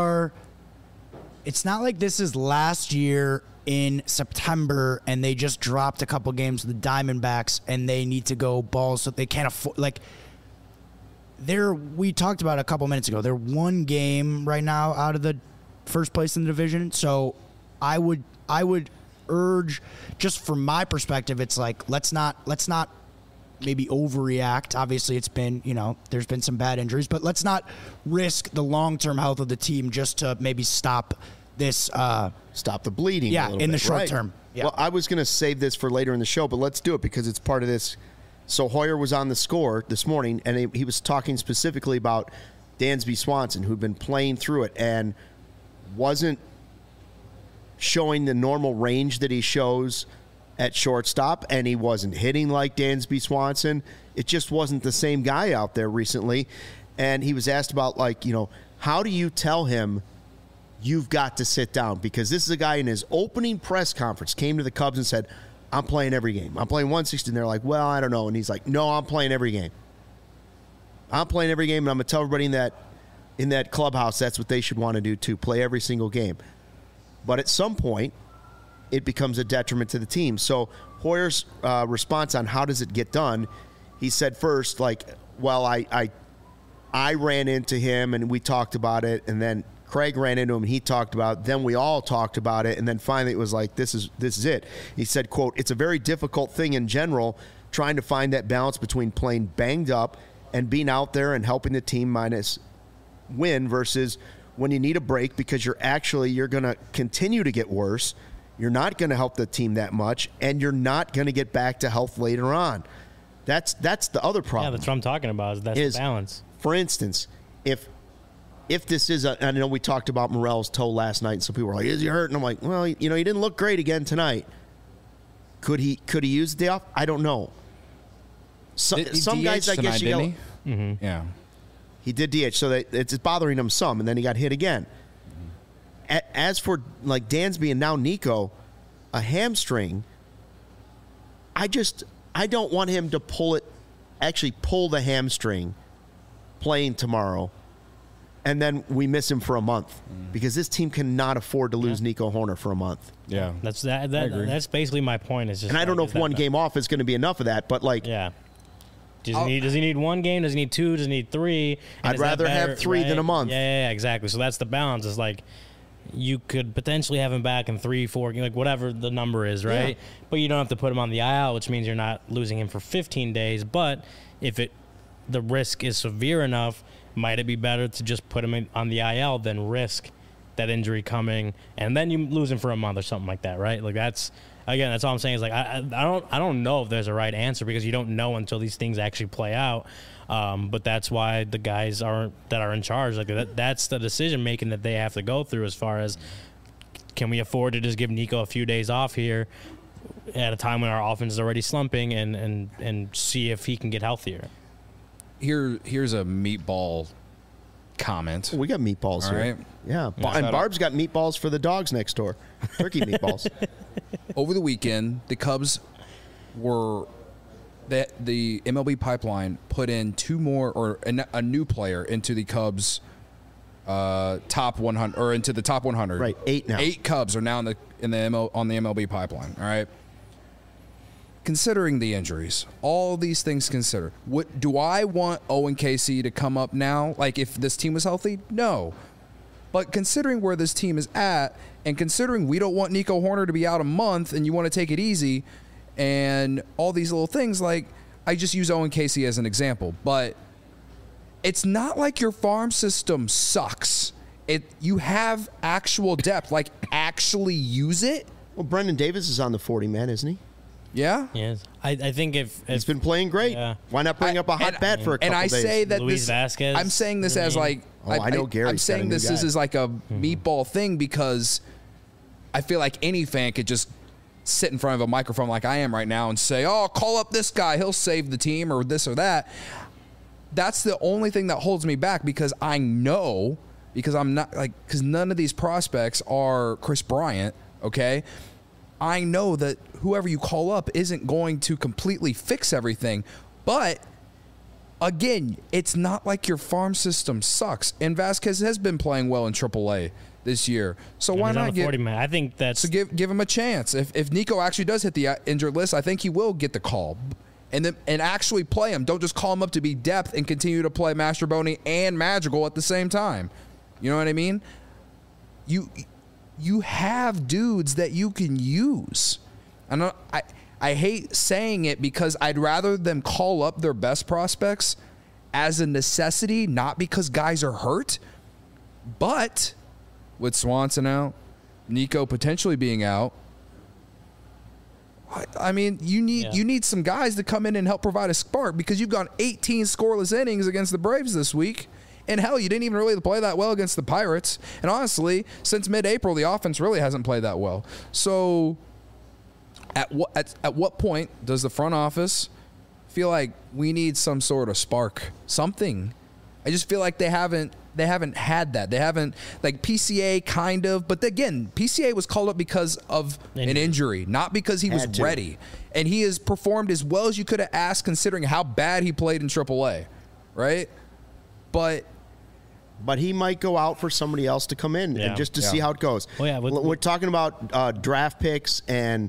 Speaker 4: it's not like this is last year in September and they just dropped a couple games with the Diamondbacks and they need to go balls so they can't afford, like, we talked about it a couple minutes ago. They're one game right now out of the first place in the division. So I would urge, just from my perspective, it's like, let's not maybe overreact. Obviously, it's been, there's been some bad injuries, but let's not risk the long-term health of the team just to maybe stop this.
Speaker 1: Stop the bleeding.
Speaker 4: Yeah,
Speaker 1: a little
Speaker 4: in
Speaker 1: bit,
Speaker 4: the short
Speaker 1: right?
Speaker 4: term. Yeah.
Speaker 1: Well, I was going to save this for later in the show, but let's do it because it's part of this. So Hoyer was on the score this morning, and he was talking specifically about Dansby Swanson, who'd been playing through it and wasn't showing the normal range that he shows at shortstop, and he wasn't hitting like Dansby Swanson. It just wasn't the same guy out there recently. And he was asked about, like, how do you tell him you've got to sit down? Because this is a guy in his opening press conference came to the Cubs and said, I'm playing every game. I'm playing 160. And they're like, well, I don't know. And he's like, no, I'm playing every game. I'm playing every game, and I'm going to tell everybody in that clubhouse that's what they should want to do too, play every single game. But at some point, it becomes a detriment to the team. So Hoyer's response on how does it get done, he said first, like, well, I ran into him and we talked about it, and then Craig ran into him and he talked about it. Then we all talked about it, and then finally it was like, this is it. He said, quote, it's a very difficult thing in general, trying to find that balance between playing banged up and being out there and helping the team minus win versus when you need a break because you're going to continue to get worse. You're not going to help the team that much, and you're not going to get back to health later on. That's the other problem.
Speaker 2: Yeah, that's what I'm talking about. That's the balance.
Speaker 1: For instance, if this is I know we talked about Morel's toe last night, and some people were like, is he hurt? And I'm like, well, he didn't look great again tonight. Could he use the day off? I don't know. Some guys, I guess,
Speaker 3: didn't he? Mm-hmm. Yeah.
Speaker 1: He did DH, so it's bothering him some, and then he got hit again. As for, like, Dansby and now Nico, a hamstring, I don't want him to pull the hamstring playing tomorrow, and then we miss him for a month because this team cannot afford to lose Nico Horner for a month.
Speaker 3: Yeah.
Speaker 2: That's basically my point. Is just,
Speaker 1: and I don't know if one game off is going to be enough of that, but, like,
Speaker 2: yeah. Does he need one game? Does he need two? Does he need three? And
Speaker 1: I'd rather have three than a month.
Speaker 2: Yeah, exactly. So that's the balance. It's like you could potentially have him back in 3, 4, like whatever the number is, right? Yeah. But you don't have to put him on the IL, which means you're not losing him for 15 days. But if the risk is severe enough, might it be better to just put him on the IL than risk that injury coming, and then you lose him for a month or something like that, right? Like that's all I'm saying is like I don't know if there's a right answer because you don't know until these things actually play out. But that's why the guys that are in charge, like that's the decision making that they have to go through as far as can we afford to just give Nico a few days off here at a time when our offense is already slumping and see if he can get healthier.
Speaker 3: Here's a meatball comment.
Speaker 1: We got meatballs
Speaker 3: All
Speaker 1: here.
Speaker 3: right.
Speaker 1: Yeah. And Barb's got meatballs for the dogs next door. Turkey meatballs.
Speaker 3: Over the weekend, the Cubs were the MLB pipeline put in two more or a new player into the Cubs top 100 or into the top 100.
Speaker 1: Right, 8 now.
Speaker 3: 8 Cubs are now on the MLB pipeline. All right. Considering the injuries, all these things considered, what do I want Owen Casey to come up now? Like if this team was healthy, no. But considering where this team is at, and considering we don't want Nico Horner to be out a month, and you want to take it easy, and all these little things, like I just use Owen Casey as an example, but it's not like your farm system sucks. You have actual depth, like actually use it.
Speaker 1: Well, Brendan Davis is on the 40 man, isn't he?
Speaker 3: Yeah.
Speaker 2: Yes, I think if
Speaker 1: He's been playing great.
Speaker 2: Yeah.
Speaker 1: Why not bring up a hot bat for a couple
Speaker 3: And I
Speaker 1: days?
Speaker 3: say that
Speaker 2: Luis
Speaker 3: this.
Speaker 2: Vasquez,
Speaker 3: I'm saying this as like.
Speaker 1: I know Gary's
Speaker 3: I'm saying
Speaker 1: got a new
Speaker 3: this
Speaker 1: guy.
Speaker 3: is like a meatball thing because I feel like any fan could just sit in front of a microphone like I am right now and say, "Oh, call up this guy. He'll save the team," or this or that. That's the only thing that holds me back because I know because I'm not like because none of these prospects are Chris Bryant. Okay. I know that whoever you call up isn't going to completely fix everything, but again, it's not like your farm system sucks. And Vasquez has been playing well in AAA this year, so why
Speaker 2: he's on
Speaker 3: not
Speaker 2: the 40
Speaker 3: give?
Speaker 2: man. I think that's
Speaker 3: So give him a chance. If Nico actually does hit the injured list, I think he will get the call, and actually play him. Don't just call him up to be depth and continue to play Mastroboni and Madrigal at the same time. You know what I mean? You have dudes that you can use. I hate saying it because I'd rather them call up their best prospects as a necessity, not because guys are hurt. But with Swanson out, Nico potentially being out, I mean, you need some guys to come in and help provide a spark because you've gone 18 scoreless innings against the Braves this week. And hell, you didn't even really play that well against the Pirates. And honestly, since mid-April, the offense really hasn't played that well. So at what point does the front office feel like we need some sort of spark, something? I just feel like they haven't had that. They haven't, like PCA kind of, but again, PCA was called up because of an injury, not because he was ready. And he has performed as well as you could have asked considering how bad he played in AAA, right? But
Speaker 1: he might go out for somebody else to come in and just to see how it goes.
Speaker 2: Oh, yeah,
Speaker 1: we're talking about draft picks and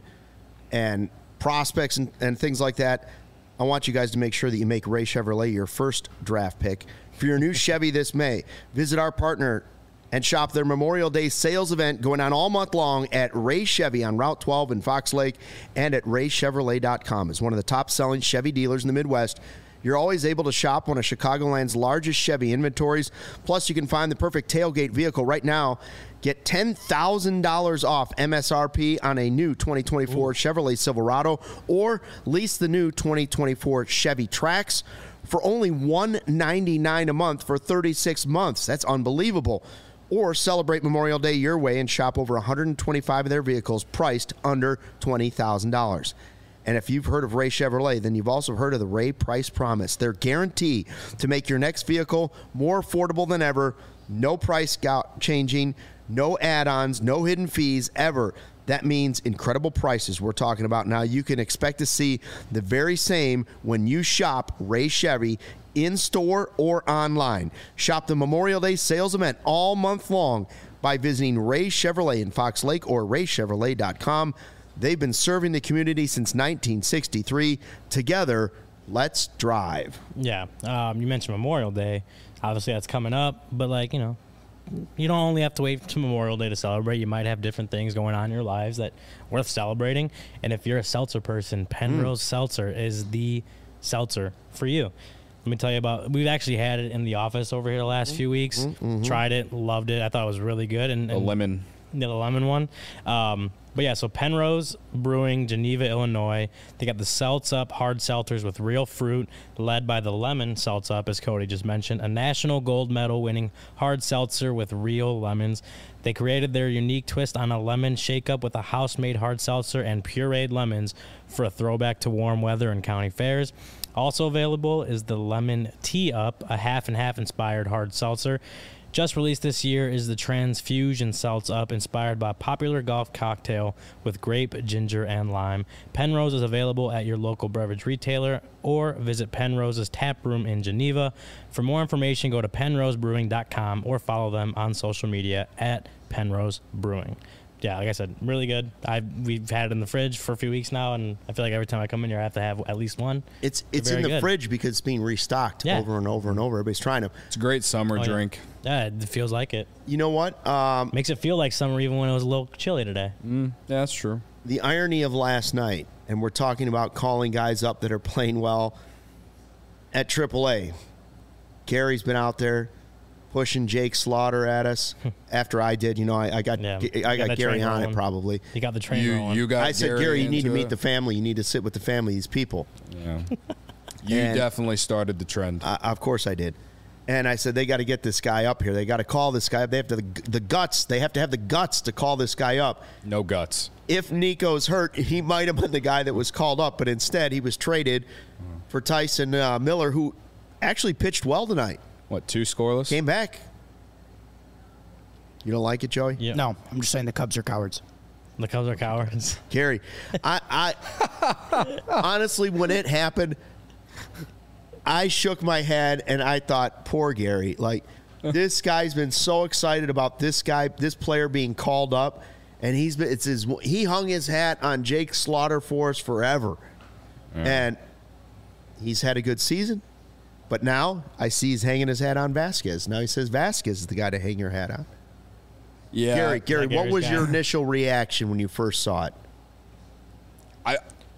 Speaker 1: prospects and things like that. I want you guys to make sure that you make Ray Chevrolet your first draft pick for your new Chevy this May. Visit our partner and shop their Memorial Day sales event going on all month long at Ray Chevy on Route 12 in Fox Lake and at raychevrolet.com. As one of the top-selling Chevy dealers in the Midwest, you're always able to shop one of Chicagoland's largest Chevy inventories. Plus, you can find the perfect tailgate vehicle right now. Get $10,000 off MSRP on a new 2024 Chevrolet Silverado or lease the new 2024 Chevy Trax for only $199 a month for 36 months. That's unbelievable. Or celebrate Memorial Day your way and shop over 125 of their vehicles priced under $20,000. And if you've heard of Ray Chevrolet, then you've also heard of the Ray Price Promise. Their guarantee to make your next vehicle more affordable than ever. No price changing, no add-ons, no hidden fees ever. That means incredible prices we're talking about now. You can expect to see the very same when you shop Ray Chevy in-store or online. Shop the Memorial Day sales event all month long by visiting Ray Chevrolet in Fox Lake or raychevrolet.com. They've been serving the community since 1963. Together, let's drive.
Speaker 2: Yeah. You mentioned Memorial Day. Obviously, that's coming up. But, like, you know, you don't only have to wait to Memorial Day to celebrate. You might have different things going on in your lives that worth celebrating. And if you're a seltzer person, Penrose Seltzer is the seltzer for you. Let me tell you about. We've actually had it in the office over here the last few weeks. Tried it, loved it. I thought it was really good. And
Speaker 3: A lemon.
Speaker 2: the lemon one. But yeah, so Penrose Brewing, Geneva, Illinois. They got the Seltz Up hard seltzers with real fruit, led by the lemon Seltz Up, as Cody just mentioned, a national gold medal winning hard seltzer with real lemons. They created their unique twist on a lemon shake-up with a house-made hard seltzer and pureed lemons for a throwback to warm weather and county fairs. Also available is the Lemon Tea Up, a half-and-half inspired hard seltzer. Just released this year is the Transfusion Seltz Up, inspired by a popular golf cocktail with grape, ginger, and lime. Penrose is available at your local beverage retailer or visit Penrose's tap room in Geneva. For more information, go to penrosebrewing.com or follow them on social media at Penrose Brewing. Yeah, like I said, really good. We've had it in the fridge for a few weeks now, and I feel like every time I come in here, I have to have at least one.
Speaker 1: It's
Speaker 2: They're
Speaker 1: in the
Speaker 2: very good.
Speaker 1: fridge because it's being restocked over and over and over. Everybody's trying to.
Speaker 3: It's a great summer
Speaker 2: yeah.
Speaker 3: drink.
Speaker 2: Yeah, it feels like it.
Speaker 1: You know what?
Speaker 2: Makes it feel like summer even when it was a little chilly today.
Speaker 3: Yeah, that's true.
Speaker 1: The irony of last night, and we're talking about calling guys up that are playing well at AAA. Gary's been out there pushing Jake Slaughter at us after I did. You know, I got
Speaker 2: Yeah.
Speaker 1: I
Speaker 2: Got
Speaker 1: got
Speaker 2: that
Speaker 1: Gary
Speaker 2: train
Speaker 1: on it
Speaker 2: rolling.
Speaker 1: probably.
Speaker 2: You got the train rolling.
Speaker 3: You got.
Speaker 1: I said, Gary, you need to
Speaker 3: into
Speaker 1: meet
Speaker 3: it.
Speaker 1: the family. You need to sit with the family. These people.
Speaker 3: Yeah. You
Speaker 1: And-
Speaker 3: definitely started the trend.
Speaker 1: Of course I did. And I said, they got to get this guy up here. They got to call this guy up. They have to the guts. They have to have the guts to call this guy up.
Speaker 3: No guts.
Speaker 1: If Nico's hurt, he might have been the guy that was called up, but instead he was traded for Tyson Miller, who actually pitched well tonight.
Speaker 3: What, 2 scoreless?
Speaker 1: Came back. You don't like it, Joey?
Speaker 2: Yeah.
Speaker 4: No, I'm just saying the Cubs are cowards.
Speaker 2: The Cubs are cowards.
Speaker 1: Gary, I honestly, when it happened, I shook my head and I thought, poor Gary. Like, this guy's been so excited about this player being called up, and he hung his hat on Jake Slaughter for us forever, and he's had a good season. But now I see he's hanging his hat on Vasquez. Now he says Vasquez is the guy to hang your hat on.
Speaker 3: Yeah.
Speaker 1: Gary, what
Speaker 2: Gary's
Speaker 1: was
Speaker 2: guy.
Speaker 1: your initial reaction when you first saw it?
Speaker 3: I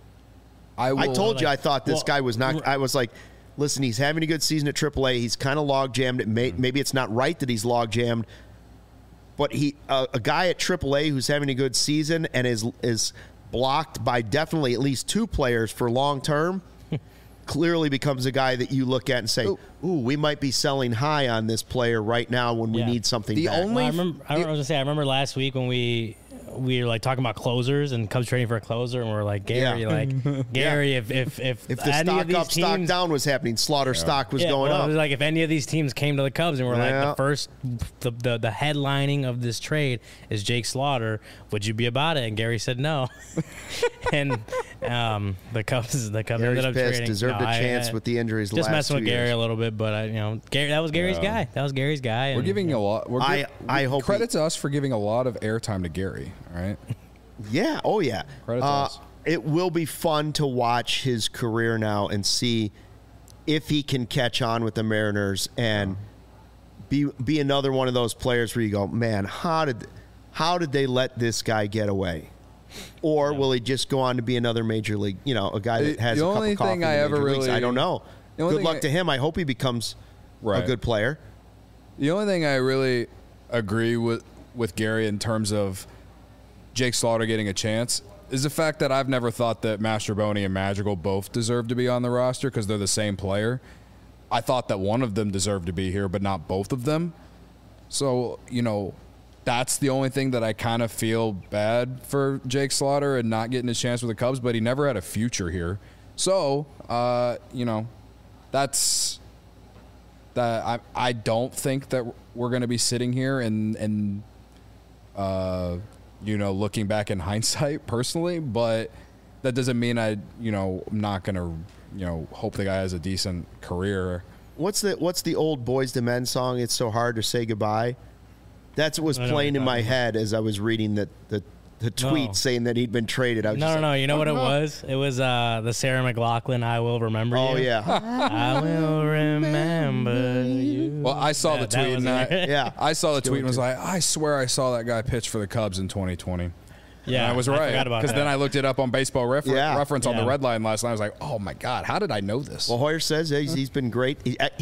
Speaker 1: I told you I
Speaker 2: like-
Speaker 1: thought this
Speaker 2: well,
Speaker 1: guy was not. I was like, listen, he's having a good season at AAA. He's kind of log jammed. Maybe it's not right that he's log jammed, but a guy at AAA who's having a good season and is blocked by definitely at least 2 players for long term. Clearly becomes a guy that you look at and say, "Ooh, we might be selling high on this player right now when we
Speaker 2: Yeah.
Speaker 1: need something
Speaker 3: The
Speaker 1: back."
Speaker 3: only-
Speaker 2: Well, I was gonna say, I remember last week when we were like talking about closers and Cubs trading for a closer, and we're like, Gary,
Speaker 1: Yeah.
Speaker 2: Gary, if
Speaker 1: if the
Speaker 2: any
Speaker 1: stock
Speaker 2: of these
Speaker 1: up, stock
Speaker 2: teams,
Speaker 1: down was happening, Slaughter stock was
Speaker 2: yeah,
Speaker 1: going
Speaker 2: well,
Speaker 1: up.
Speaker 2: it was like if any of these teams came to the Cubs and were like
Speaker 1: Yeah.
Speaker 2: the first, the headlining of this trade is Jake Slaughter, would you be about it? And Gary said no, and the Cubs
Speaker 1: Gary's
Speaker 2: ended up
Speaker 1: pissed.
Speaker 2: trading.
Speaker 1: Deserved
Speaker 2: No,
Speaker 1: a chance with the injuries. the
Speaker 2: just
Speaker 1: last
Speaker 2: messing
Speaker 1: 2
Speaker 2: with Gary
Speaker 1: years.
Speaker 2: a little bit, but Gary, that was Gary's guy. That was Gary's guy.
Speaker 3: We're
Speaker 2: and,
Speaker 3: giving a lot.
Speaker 1: I hope
Speaker 3: credit to us for giving a lot of airtime to Gary. All right.
Speaker 1: Yeah. Oh, yeah.
Speaker 3: Credit to us.
Speaker 1: It will be fun to watch his career now and see if he can catch on with the Mariners and be another one of those players where you go, man, how did they let this guy get away? Or will he just go on to be another major league? You know, a guy that has
Speaker 3: The
Speaker 1: a cup
Speaker 3: only
Speaker 1: of coffee.
Speaker 3: thing
Speaker 1: in
Speaker 3: I
Speaker 1: the
Speaker 3: ever
Speaker 1: major leagues?
Speaker 3: really-
Speaker 1: I don't know.
Speaker 3: the only
Speaker 1: Good
Speaker 3: thing
Speaker 1: luck
Speaker 3: I-
Speaker 1: to him. I hope he becomes a
Speaker 3: Right.
Speaker 1: good player.
Speaker 3: The only thing I really agree with Gary in terms of Jake Slaughter getting a chance is the fact that I've never thought that Mastroboni and Madrigal both deserve to be on the roster because they're the same player. I thought that one of them deserved to be here, but not both of them. So, that's the only thing that I kind of feel bad for Jake Slaughter and not getting his chance with the Cubs, but he never had a future here. So, that's that. I don't think that we're going to be sitting here and looking back in hindsight personally, but that doesn't mean I'm not going to, hope the guy has a decent career.
Speaker 1: What's the old Boys II Men song? It's so hard to say goodbye. That's what was
Speaker 2: I know what
Speaker 1: playing
Speaker 2: you're
Speaker 1: in my
Speaker 2: talking about.
Speaker 1: head as I was reading the tweet
Speaker 2: No.
Speaker 1: saying that he'd been traded. I was just
Speaker 2: No.
Speaker 1: like,
Speaker 2: You know what it
Speaker 1: no.
Speaker 2: was? It was the Sarah McLachlan "I Will Remember You."
Speaker 1: Oh yeah,
Speaker 2: I will remember you.
Speaker 3: Well, I saw the
Speaker 2: That
Speaker 3: tweet
Speaker 2: was
Speaker 3: and
Speaker 2: it.
Speaker 1: yeah.
Speaker 3: I saw the tweet and was like, I swear I saw that guy pitch for the Cubs in 2020.
Speaker 2: Yeah,
Speaker 3: and I was
Speaker 2: I
Speaker 3: right.
Speaker 2: forgot about
Speaker 3: Because
Speaker 2: that.
Speaker 3: then I looked it up on Baseball Reference on the
Speaker 2: Yeah.
Speaker 3: Red Line last night. I was like, oh my God, how did I know this?
Speaker 1: Well, Hoyer says he's been great.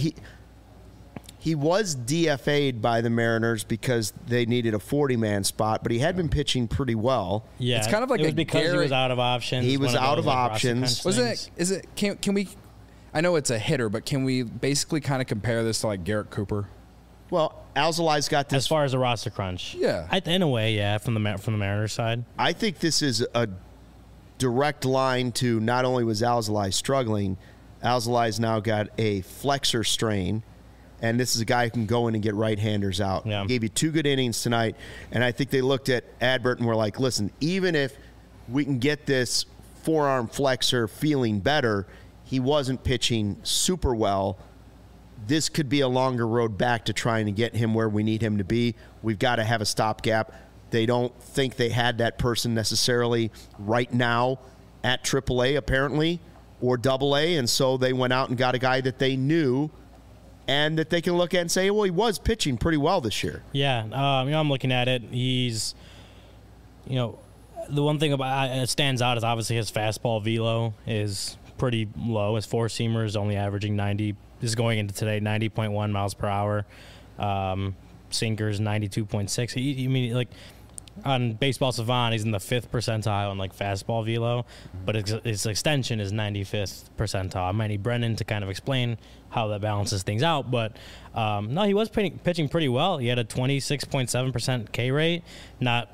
Speaker 1: He was DFA'd by the Mariners because they needed a 40-man spot, but he had been pitching pretty well.
Speaker 2: Yeah,
Speaker 3: It's kind of like
Speaker 2: it was
Speaker 3: a
Speaker 2: because he
Speaker 3: Gary-
Speaker 2: was out of options.
Speaker 1: He was
Speaker 2: one
Speaker 1: out
Speaker 2: those,
Speaker 1: of
Speaker 2: like, Rossi
Speaker 1: options.
Speaker 2: Kunz
Speaker 3: Was
Speaker 2: things.
Speaker 3: can we, I know it's a hitter, but can we basically kind of compare this to like Garrett Cooper?
Speaker 1: Well, Alzolai's got this.
Speaker 2: As far as the roster crunch?
Speaker 3: Yeah.
Speaker 2: In a way, yeah, from the Mariners side.
Speaker 1: I think this is a direct line to not only was Alzolai struggling, Alzolai's now got a flexor strain, and this is a guy who can go in and get right-handers out.
Speaker 2: Yeah.
Speaker 1: He gave you 2 good innings tonight, and I think they looked at Adbert and were like, listen, even if we can get this forearm flexor feeling better, he wasn't pitching super well. This could be a longer road back to trying to get him where we need him to be. We've got to have a stopgap. They don't think they had that person necessarily right now at AAA, apparently, or AA, and so they went out and got a guy that they knew and that they can look at and say, well, he was pitching pretty well this year.
Speaker 2: Yeah, I'm looking at it. He's, the one thing about it stands out is obviously his fastball velo is pretty low. His four-seamer is only averaging 90. This is going into today, 90.1 miles per hour. Sinker's 92.6. On Baseball Savant, he's in the 5th percentile on fastball velo, but his extension is 95th percentile. I might need Brennan to kind of explain how that balances things out, but no, he was pitching pretty well. He had a 26.7% K rate, not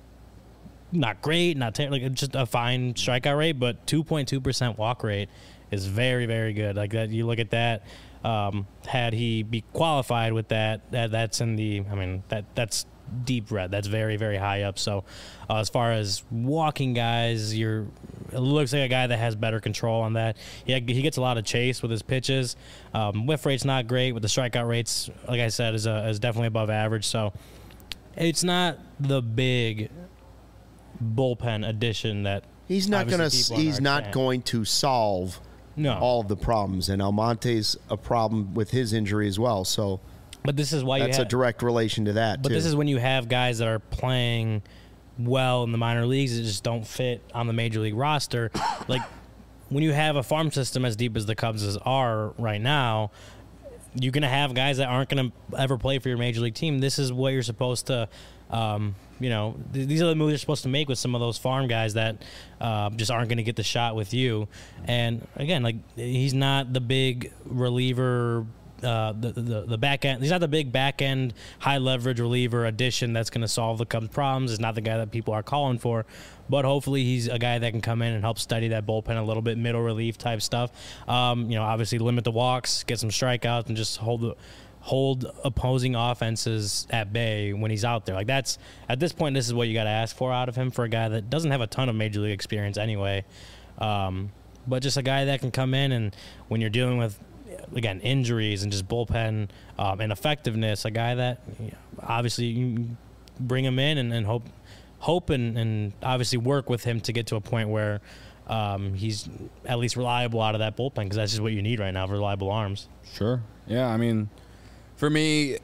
Speaker 2: great, just a fine strikeout rate, but 2.2% walk rate is very, very good. Like that, you look at that. Had he be qualified with that's in the. That's deep red. That's very, very high up. So, as far as walking guys, it looks like a guy that has better control on that. He gets a lot of chase with his pitches. Whiff rate's not great, but the strikeout rates, like I said, is definitely above average. So, it's not the big bullpen addition that
Speaker 1: He's not going
Speaker 2: understand.
Speaker 1: to solve all of the problems, and Almonte's a problem with his injury as well. So.
Speaker 2: But this is why
Speaker 1: that's a direct relation to that.
Speaker 2: But this is when you have guys that are playing well in the minor leagues that just don't fit on the major league roster. Like when you have a farm system as deep as the Cubs are right now, you're going to have guys that aren't going to ever play for your major league team. This is what you're supposed to, these are the moves you're supposed to make with some of those farm guys that just aren't going to get the shot with you. And again, he's not the big reliever. The back end, he's not the big back end high leverage reliever addition that's going to solve the Cubs' problems. He's not the guy that people are calling for, but hopefully he's a guy that can come in and help steady that bullpen a little bit, middle relief type stuff. Obviously limit the walks, get some strikeouts, and just hold opposing offenses at bay when he's out there. At this point, this is what you got to ask for out of him for a guy that doesn't have a ton of major league experience anyway, but just a guy that can come in and when you're dealing with again injuries and just bullpen ineffectiveness, a guy that obviously you bring him in and hope and obviously work with him to get to a point where he's at least reliable out of that bullpen, because that's just what you need right now, reliable arms.
Speaker 3: Sure. Yeah, for me,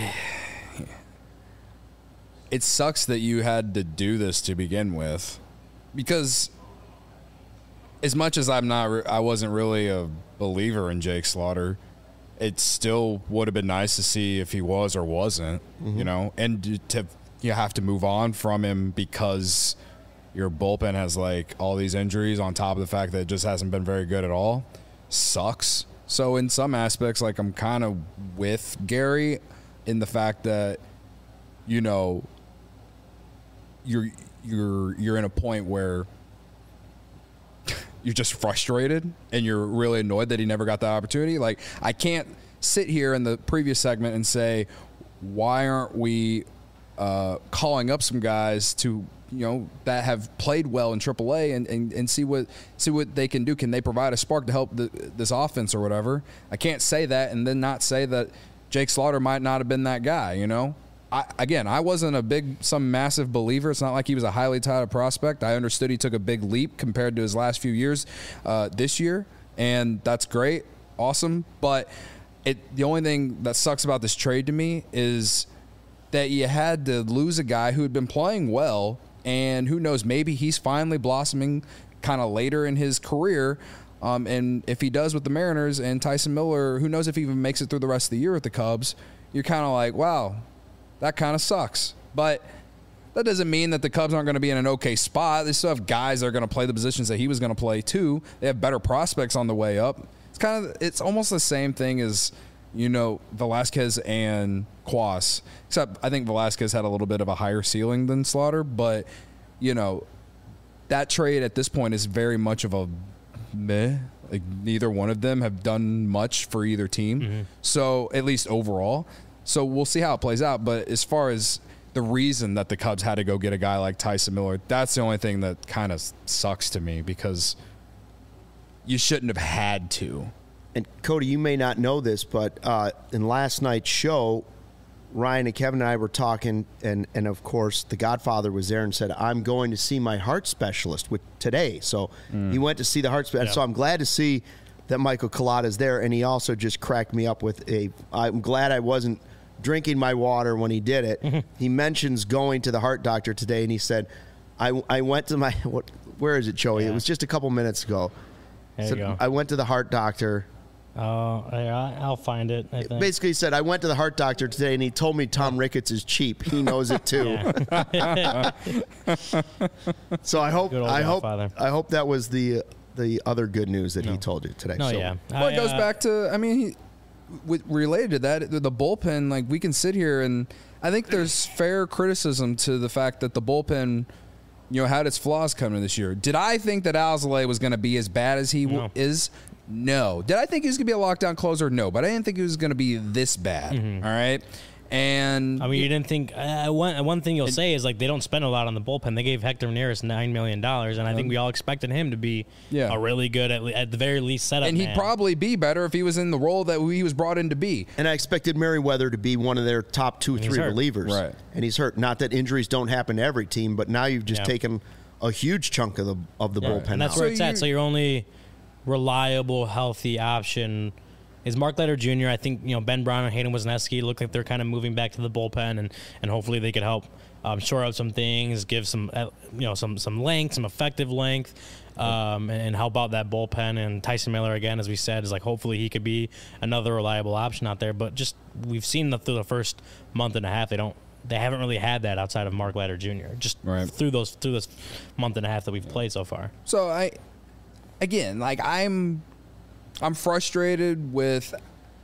Speaker 3: it sucks that you had to do this to begin with, because as much as I wasn't really a believer in Jake Slaughter, it still would have been nice to see if he was or wasn't, and you have to move on from him because your bullpen has all these injuries on top of the fact that it just hasn't been very good at all. Sucks. So in some aspects, I'm kind of with Gary in the fact that, you're in a point where you're just frustrated and you're really annoyed that he never got the opportunity. I can't sit here in the previous segment and say, why aren't we calling up some guys to, that have played well in AAA and see what they can do. Can they provide a spark to help this offense or whatever? I can't say that and then not say that Jake Slaughter might not have been that guy, I wasn't some massive believer. It's not like he was a highly touted prospect. I understood he took a big leap compared to his last few years this year, and that's great, awesome. But the only thing that sucks about this trade to me is that you had to lose a guy who had been playing well And who knows, maybe he's finally blossoming kind of later in his career. And if he does with the Mariners and Tyson Miller, who knows if he even makes it through the rest of the year with the Cubs, you're kind of like, wow, that kind of sucks. But that doesn't mean that the Cubs aren't going to be in an okay spot. They still have guys that are going to play the positions that he was going to play too. They have better prospects on the way up. It's almost the same thing as, Velasquez and Cuas, except I think Velasquez had a little bit of a higher ceiling than Slaughter, but that trade at this point is very much of a meh. Like, neither one of them have done much for either team. Mm-hmm. So at least overall. So we'll see how it plays out. But as far as the reason that the Cubs had to go get a guy like Tyson Miller, that's the only thing that kind of sucks to me, because you shouldn't have had to.
Speaker 1: And Cody, you may not know this, but in last night's show, Ryan and Kevin and I were talking, and of course, the Godfather was there and said, I'm going to see my heart specialist today. So he went to see the heart specialist. Yeah. So I'm glad to see that Michael Collada is there, and he also just cracked me up with I'm glad I wasn't drinking my water when he did it. He mentions going to the heart doctor today, and he said, I went to where is it, Joey? Yeah. It was just a couple minutes ago.
Speaker 2: There you go.
Speaker 1: I went to the heart doctor.
Speaker 2: I'll find it. I think.
Speaker 1: Basically, he said, I went to the heart doctor today, and he told me Tom Ricketts is cheap. He knows it too. So I hope that was the other good news that he told you today.
Speaker 2: No,
Speaker 1: so,
Speaker 2: yeah.
Speaker 3: Well, it goes back to, related to that, the bullpen. Like, we can sit here, and I think there's fair criticism to the fact that the bullpen, had its flaws coming this year. Did I think that Alzolay was going to be as bad as he is? No. Did I think he was going to be a lockdown closer? No. But I didn't think he was going to be this bad. Mm-hmm. All right. And
Speaker 2: you didn't think one thing you'll say is, like, they don't spend a lot on the bullpen. They gave Hector Neris $9 million, and I think we all expected him to be a really good, at the very least, setup.
Speaker 3: And he'd probably be better if he was in the role that he was brought in to be.
Speaker 1: And I expected Merriweather to be one of their top 2-3 relievers.
Speaker 3: Right.
Speaker 1: And he's hurt. Not that injuries don't happen to every team, but now you've just taken a huge chunk of the bullpen.
Speaker 2: And that's where it's at. So your only reliable, healthy option is Mark Leiter Jr. I think, Ben Brown and Hayden Wesneski look like they're kind of moving back to the bullpen, and hopefully they could help shore up some things, give some some length, some effective length, and help out that bullpen. And Tyson Miller, again, as we said, is like, hopefully he could be another reliable option out there. But just, we've seen through the first month and a half, they haven't really had that outside of Mark Leiter Jr. Just through this month and a half that we've played so far.
Speaker 3: So I'm frustrated with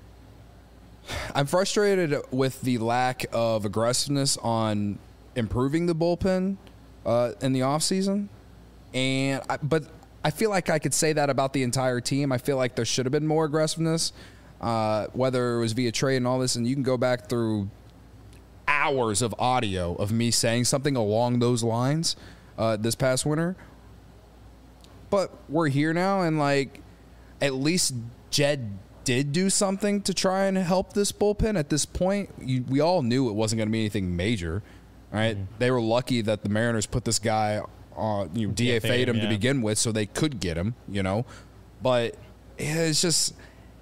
Speaker 3: the lack of aggressiveness on improving the bullpen in the offseason. But I feel like I could say that about the entire team. I feel like there should have been more aggressiveness, whether it was via trade and all this. And you can go back through hours of audio of me saying something along those lines this past winter. But we're here now, and at least Jed did do something to try and help this bullpen at this point. We all knew it wasn't going to be anything major, right? Mm-hmm. They were lucky that the Mariners put this guy on, DFA'd him to begin with, so they could get him, But it's just,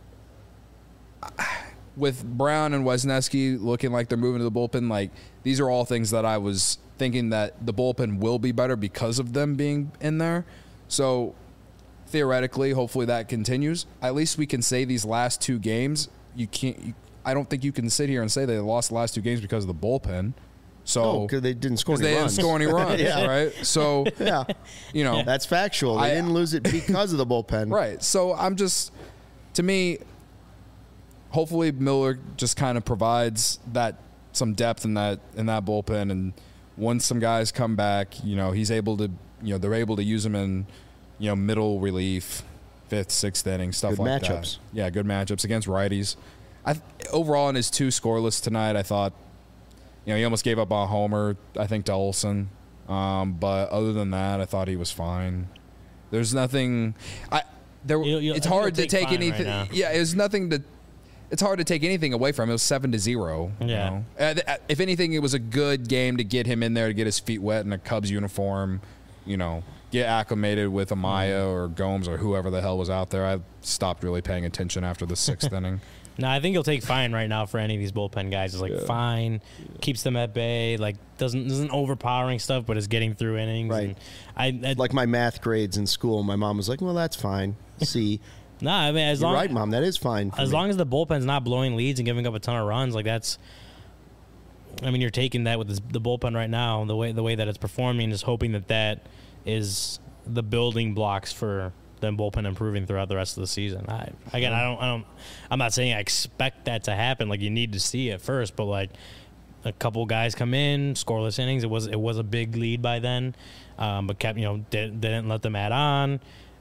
Speaker 3: with Brown and Wesneski looking like they're moving to the bullpen, these are all things that I was thinking that the bullpen will be better because of them being in there. So theoretically, hopefully that continues. At least we can say these last two games, I don't think you can sit here and say they lost the last two games because of the bullpen. So
Speaker 1: because they didn't score any
Speaker 3: runs. They
Speaker 1: didn't
Speaker 3: score any runs, right? So
Speaker 1: that's factual. They didn't lose it because of the bullpen,
Speaker 3: right? So to me, hopefully Miller just kind of provides some depth in that bullpen, and once some guys come back, he's able to, they're able to use him in, middle relief, 5th, 6th inning, stuff
Speaker 1: good
Speaker 3: like
Speaker 1: matchups.
Speaker 3: That. Yeah, good matchups against righties. Overall, in his 2 scoreless tonight, I thought, he almost gave up on a homer, I think, to Olsen. But other than that, I thought he was fine. There's nothing. It's hard to take anything. Right, yeah, it was nothing to. It's hard to take anything away from him. It was 7-0.
Speaker 2: Yeah.
Speaker 3: If anything, it was a good game to get him in there to get his feet wet in a Cubs uniform. Get acclimated with Amaya or Gomes or whoever the hell was out there. I stopped really paying attention after the 6th inning.
Speaker 2: No, I think he'll take fine right now for any of these bullpen guys. It's like fine, keeps them at bay, like doesn't overpowering stuff, but is getting through innings.
Speaker 1: Right.
Speaker 2: And I
Speaker 1: Like my math grades in school, my mom was like, "Well, that's fine." C.
Speaker 2: nah, I mean as
Speaker 1: You're
Speaker 2: long
Speaker 1: right, Mom. That is fine.
Speaker 2: as long as the bullpen's not blowing leads and giving up a ton of runs, like that's. I mean, you're taking that with the bullpen right now, the way that it's performing, is hoping that is the building blocks for them bullpen improving throughout the rest of the season. I'm not saying I expect that to happen. Like you need to see it first, but like a couple guys come in, scoreless innings. It was a big lead by then, but kept didn't let them add on.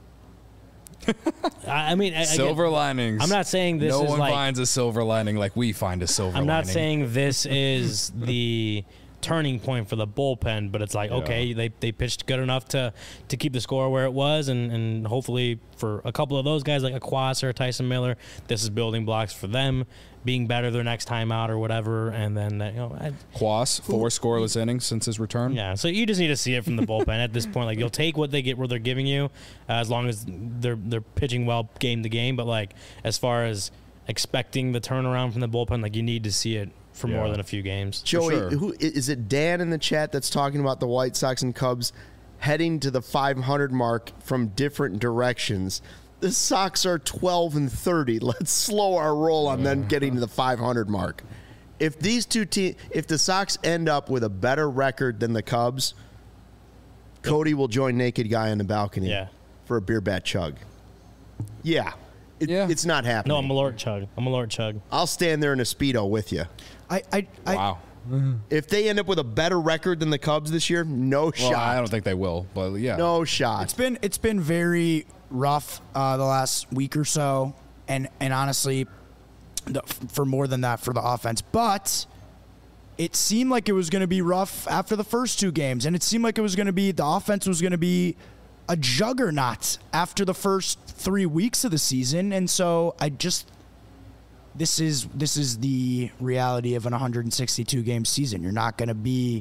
Speaker 2: I mean,
Speaker 3: Silver linings.
Speaker 2: I'm not saying this
Speaker 3: no
Speaker 2: is
Speaker 3: one
Speaker 2: like
Speaker 3: finds a silver lining like we find a silver
Speaker 2: I'm
Speaker 3: lining.
Speaker 2: not saying this is the turning point for the bullpen, but it's like, okay, they pitched good enough to keep the score where it was, and hopefully for a couple of those guys like a Quas or a Tyson Miller, this is building blocks for them being better their next time out or whatever, and then
Speaker 3: Quas, 4 scoreless innings since his return.
Speaker 2: yeah. So you just need to see it from the bullpen at this point. Like you'll take what they're giving you, as long as they're pitching well game to game. But like as far as expecting the turnaround from the bullpen, like you need to see it for more than a few games.
Speaker 1: Joey,
Speaker 3: sure.
Speaker 1: who is it? Dan in the chat that's talking about the White Sox and Cubs heading to the 500 mark from different directions. The Sox are 12-30. Let's slow our roll on them getting to the 500 mark. If these two teams, if the Sox end up with a better record than the Cubs, Cody will join Naked Guy on the balcony for a beer bat chug. Yeah. It's not happening.
Speaker 2: No, I'm a Lord Chug.
Speaker 1: I'll stand there in a Speedo with you.
Speaker 3: Wow.
Speaker 1: If they end up with a better record than the Cubs this year, no
Speaker 3: Well,
Speaker 1: shot.
Speaker 3: I don't think they will, but yeah.
Speaker 1: No shot.
Speaker 4: It's been very rough the last week or so, and honestly, for more than that for the offense. But it seemed like it was going to be rough after the first 2 games, and it seemed like it was going to be the offense was going to be a juggernaut after the first 3 weeks of the season, and so this is the reality of an 162 game season. You're not going to be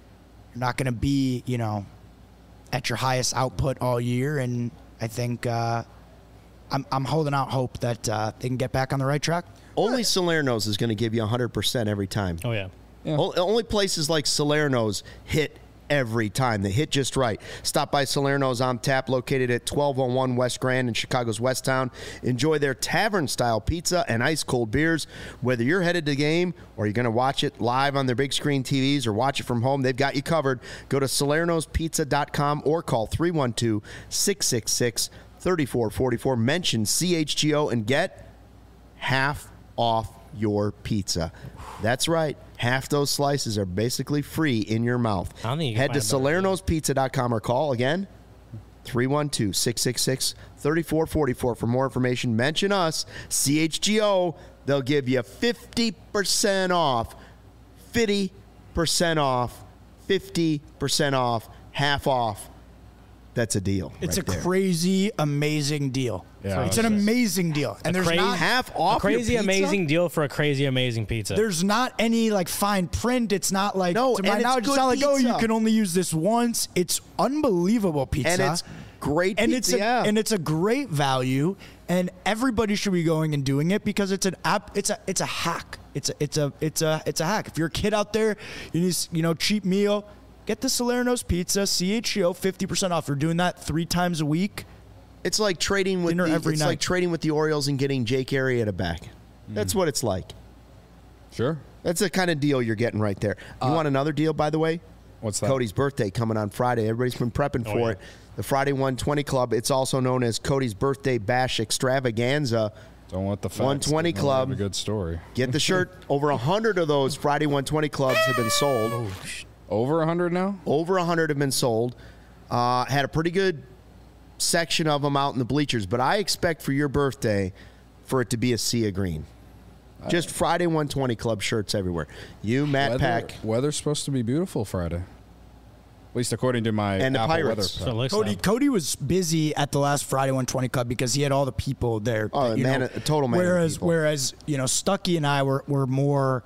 Speaker 4: at your highest output all year, and I think I'm holding out hope that they can get back on the right track.
Speaker 1: Only Salerno's is going to give you 100% every time.
Speaker 2: Oh yeah.
Speaker 1: Only places like Salerno's hit every time. They hit just right. Stop by Salerno's on tap, located at 1201 West Grand in Chicago's West Town. Enjoy their tavern-style pizza and ice-cold beers. Whether you're headed to the game or you're going to watch it live on their big screen TVs or watch it from home, they've got you covered. Go to salernospizza.com or call 312-666-3444. Mention CHGO and get half off your pizza. That's right. Half those slices are basically free in your mouth.
Speaker 2: I don't think you can
Speaker 1: Head to
Speaker 2: find a better
Speaker 1: salernospizza.com or call again 312-666-3444 for more information. Mention us, CHGO. They'll give you 50% off, 50% off, 50% off, half off. That's a deal.
Speaker 4: It's
Speaker 1: right
Speaker 4: a
Speaker 1: there.
Speaker 4: crazy, amazing deal.
Speaker 3: Yeah,
Speaker 4: It's an amazing deal. And there's not
Speaker 1: half off
Speaker 2: A crazy,
Speaker 1: your pizza?
Speaker 2: amazing deal for a crazy, amazing pizza.
Speaker 4: there's not any like fine print. It's not like
Speaker 1: No,
Speaker 4: to my
Speaker 1: and it's
Speaker 4: knowledge, it's
Speaker 1: good
Speaker 4: not like, oh, you
Speaker 1: pizza.
Speaker 4: can only use this once. It's unbelievable pizza.
Speaker 1: And it's great
Speaker 4: and
Speaker 1: pizza,
Speaker 4: and it's a great value, and everybody should be going and doing it because it's an app. It's a hack. It's a hack. If you're a kid out there, you need cheap meal. Get the Salerno's Pizza, CHGO, 50% off. You're doing that 3 times a week.
Speaker 1: It's like trading with
Speaker 4: Dinner every
Speaker 1: it's
Speaker 4: night.
Speaker 1: like trading with the Orioles and getting Jake Arrieta back. That's what it's like.
Speaker 3: Sure.
Speaker 1: That's the kind of deal you're getting right there. You want another deal, by the way?
Speaker 3: What's that?
Speaker 1: Cody's birthday coming on Friday. Everybody's been prepping for it. The Friday 120 Club. It's also known as Cody's Birthday Bash Extravaganza.
Speaker 3: Don't want the facts.
Speaker 1: 120
Speaker 3: Don't
Speaker 1: Club.
Speaker 3: have a good story.
Speaker 1: Get the shirt. Over 100 of those Friday 120 Clubs have been sold.
Speaker 3: Over 100 now?
Speaker 1: Over 100 have been sold. Had a pretty good section of them out in the bleachers, but I expect for your birthday for it to be a sea of green. Just Friday 120 Club shirts everywhere. You, Matt Pack,
Speaker 3: Weather's supposed to be beautiful Friday. At least according to my
Speaker 1: And the
Speaker 3: Apple
Speaker 1: Pirates.
Speaker 3: Weather.
Speaker 2: So it looks
Speaker 4: Cody
Speaker 2: like.
Speaker 4: Cody was busy at the last Friday 120 Club because he had all the people there.
Speaker 1: Oh,
Speaker 4: that,
Speaker 1: a total man of
Speaker 4: Whereas
Speaker 1: people.
Speaker 4: whereas Stuckey and I were more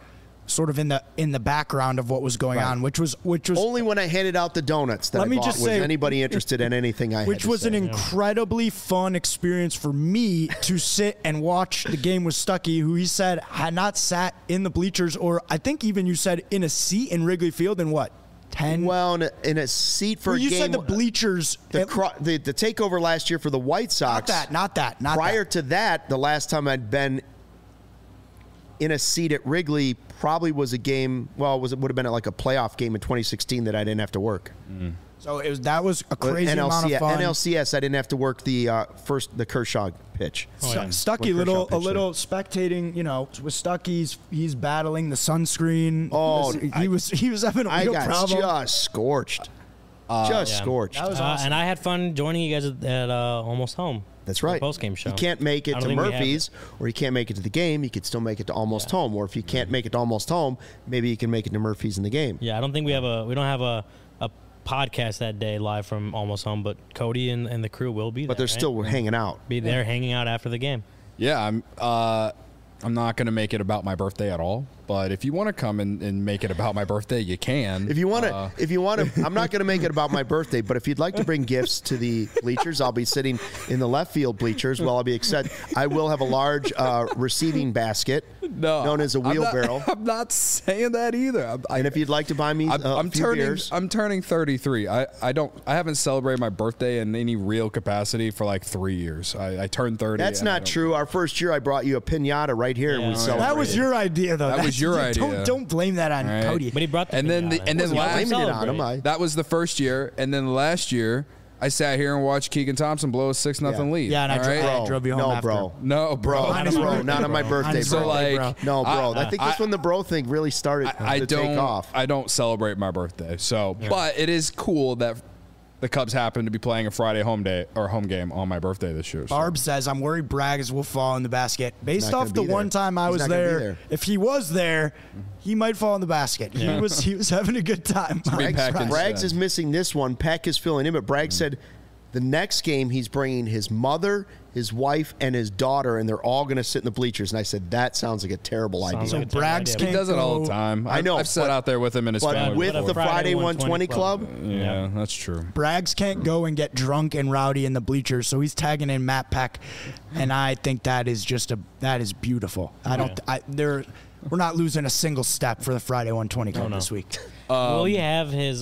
Speaker 4: sort of in the background of what was going on, which was
Speaker 1: only when I handed out the donuts that
Speaker 4: Let
Speaker 1: I
Speaker 4: me
Speaker 1: bought
Speaker 4: just
Speaker 1: was
Speaker 4: say-
Speaker 1: anybody interested in anything I had
Speaker 4: which
Speaker 1: to
Speaker 4: was
Speaker 1: say.
Speaker 4: an incredibly fun experience for me to sit and watch the game with Stuckey, who he said had not sat in the bleachers, or I think even you said in a seat in Wrigley Field in what, 10?
Speaker 1: Well, in a seat for
Speaker 4: Well,
Speaker 1: a
Speaker 4: you
Speaker 1: game.
Speaker 4: said the bleachers.
Speaker 1: the takeover last year for the White Sox.
Speaker 4: Not that.
Speaker 1: Prior to that, the last time I'd been in a seat at Wrigley probably was a game. Well, it would have been like a playoff game in 2016 that I didn't have to work.
Speaker 4: So that was a crazy amount of fun.
Speaker 1: NLCS, I didn't have to work the Kershaw pitch.
Speaker 4: Stuckey,
Speaker 1: When Kershaw
Speaker 4: a
Speaker 1: pitched
Speaker 4: little spectating, with Stuckey, he's battling the sunscreen.
Speaker 1: Oh,
Speaker 4: he was having a
Speaker 1: I
Speaker 4: real
Speaker 1: got
Speaker 4: problem.
Speaker 1: just scorched. Scorched.
Speaker 4: That was awesome.
Speaker 2: And I had fun joining you guys at Almost Home.
Speaker 1: That's right.
Speaker 2: Post game show.
Speaker 1: You can't make it
Speaker 2: I
Speaker 1: to
Speaker 2: don't think we have
Speaker 1: Murphy's, or you can't make it to the game. You could still make it to Almost Home, or if you can't make it to Almost Home, maybe you can make it to Murphy's in the game.
Speaker 2: Yeah, I don't think we don't have a podcast that day live from Almost Home, but Cody and the crew will be there.
Speaker 1: But they're
Speaker 2: right?
Speaker 1: still hanging out.
Speaker 2: be there hanging out after the game.
Speaker 3: Yeah, I'm not going to make it about my birthday at all. But if you want to come and make it about my birthday, you can.
Speaker 1: If you want to, I'm not going to make it about my birthday, but if you'd like to bring gifts to the bleachers, I'll be sitting in the left field bleachers while I'll be excited. I will have a large receiving basket known as a wheelbarrow.
Speaker 3: I'm not saying that either.
Speaker 1: And if you'd like to buy me
Speaker 3: I'm
Speaker 1: few beers,
Speaker 3: I'm turning 33. I haven't celebrated my birthday in any real capacity for like 3 years. I turned 30.
Speaker 1: that's
Speaker 3: and I
Speaker 1: not
Speaker 3: don't-
Speaker 1: true. Our first year, I brought you a pinata right here, and we
Speaker 2: Yeah.
Speaker 1: celebrated.
Speaker 4: That was your idea, though.
Speaker 3: That was your idea.
Speaker 4: Don't blame that on
Speaker 3: Right.
Speaker 4: Cody.
Speaker 2: But he brought the
Speaker 3: And then
Speaker 2: pinata.
Speaker 3: and then
Speaker 1: Wasn't
Speaker 3: last
Speaker 1: blaming it on him.
Speaker 2: celebrate.
Speaker 3: that was the first year, and then last year I sat here and watched Keegan Thompson blow a 6-0 lead.
Speaker 4: Yeah, and I
Speaker 3: all
Speaker 4: dro-
Speaker 3: right?
Speaker 4: I drove you home
Speaker 1: no,
Speaker 4: after.
Speaker 1: bro.
Speaker 3: No, bro.
Speaker 1: Bro, not on my birthday,
Speaker 3: So,
Speaker 1: bro.
Speaker 3: like,
Speaker 1: No, bro. I think that's
Speaker 3: I-
Speaker 1: when the bro thing really started
Speaker 3: I
Speaker 1: to
Speaker 3: don't.
Speaker 1: take off.
Speaker 3: I don't celebrate my birthday. So, but it is cool that the Cubs happen to be playing a Friday home game on my birthday this year. So.
Speaker 4: Barb says, I'm worried Braggs will fall in the basket. Based
Speaker 1: not
Speaker 4: off
Speaker 1: gonna
Speaker 4: the
Speaker 1: be there.
Speaker 4: one time I
Speaker 1: He's
Speaker 4: was
Speaker 1: not gonna be
Speaker 4: there,
Speaker 1: there.
Speaker 4: if he was there, he might fall in the basket.
Speaker 2: Yeah.
Speaker 4: He was having a good time.
Speaker 3: be packed in.
Speaker 1: Braggs is missing this one. Peck is filling in, but Braggs said the next game he's bringing his mother, his wife, and his daughter, and they're all going to sit in the bleachers. And I said, that sounds like a terrible idea.
Speaker 2: Sounds
Speaker 4: So
Speaker 2: like a terrible
Speaker 4: Braggs
Speaker 2: idea.
Speaker 3: He does it all the
Speaker 4: go-
Speaker 3: time.
Speaker 1: I know,
Speaker 3: I've sat
Speaker 1: but-
Speaker 3: out there with him and his
Speaker 1: But
Speaker 3: family.
Speaker 1: with
Speaker 3: before.
Speaker 1: the Friday 120 Club,
Speaker 3: yeah, that's true.
Speaker 4: Braggs can't go and get drunk and rowdy in the bleachers, so he's tagging in Matt Peck, and I think that is beautiful. We're not losing a single step for the Friday 120 Club
Speaker 2: no.
Speaker 4: this week.
Speaker 2: will he have his?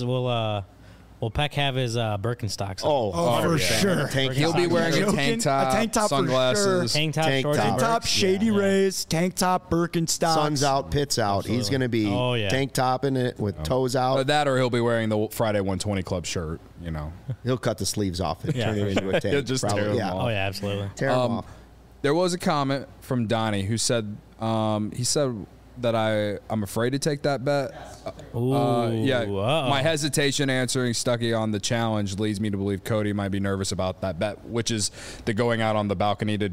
Speaker 2: Will Peck have his Birkenstocks? on?
Speaker 4: Oh, for sure.
Speaker 1: Tank
Speaker 3: He'll be wearing a
Speaker 4: Joking?
Speaker 3: tank top,
Speaker 4: A tank top for
Speaker 3: sunglasses.
Speaker 2: Tank top,
Speaker 1: Tank
Speaker 2: shorts,
Speaker 1: top.
Speaker 2: and
Speaker 4: Tank top,
Speaker 2: Birks?
Speaker 4: Shady
Speaker 2: Yeah.
Speaker 4: Rays, tank top, Birkenstocks.
Speaker 1: sun's out, pit's out. He's going to be
Speaker 2: Oh, yeah.
Speaker 1: tank topping it with toes out.
Speaker 3: That or he'll be wearing the Friday 120 Club shirt. You know,
Speaker 1: He'll cut the sleeves off and
Speaker 2: Yeah,
Speaker 1: turn
Speaker 2: for
Speaker 1: it into a tank.
Speaker 3: He'll just
Speaker 1: Probably,
Speaker 3: tear them
Speaker 1: yeah.
Speaker 3: off.
Speaker 2: Oh yeah, absolutely.
Speaker 1: Tear 'em off.
Speaker 3: there was a comment from Donnie who said he said that I'm afraid to take that bet.
Speaker 2: Ooh,
Speaker 3: Yeah,
Speaker 2: uh-oh.
Speaker 3: my hesitation answering Stuckey on the challenge leads me to believe Cody might be nervous about that bet, which is the going out on the balcony to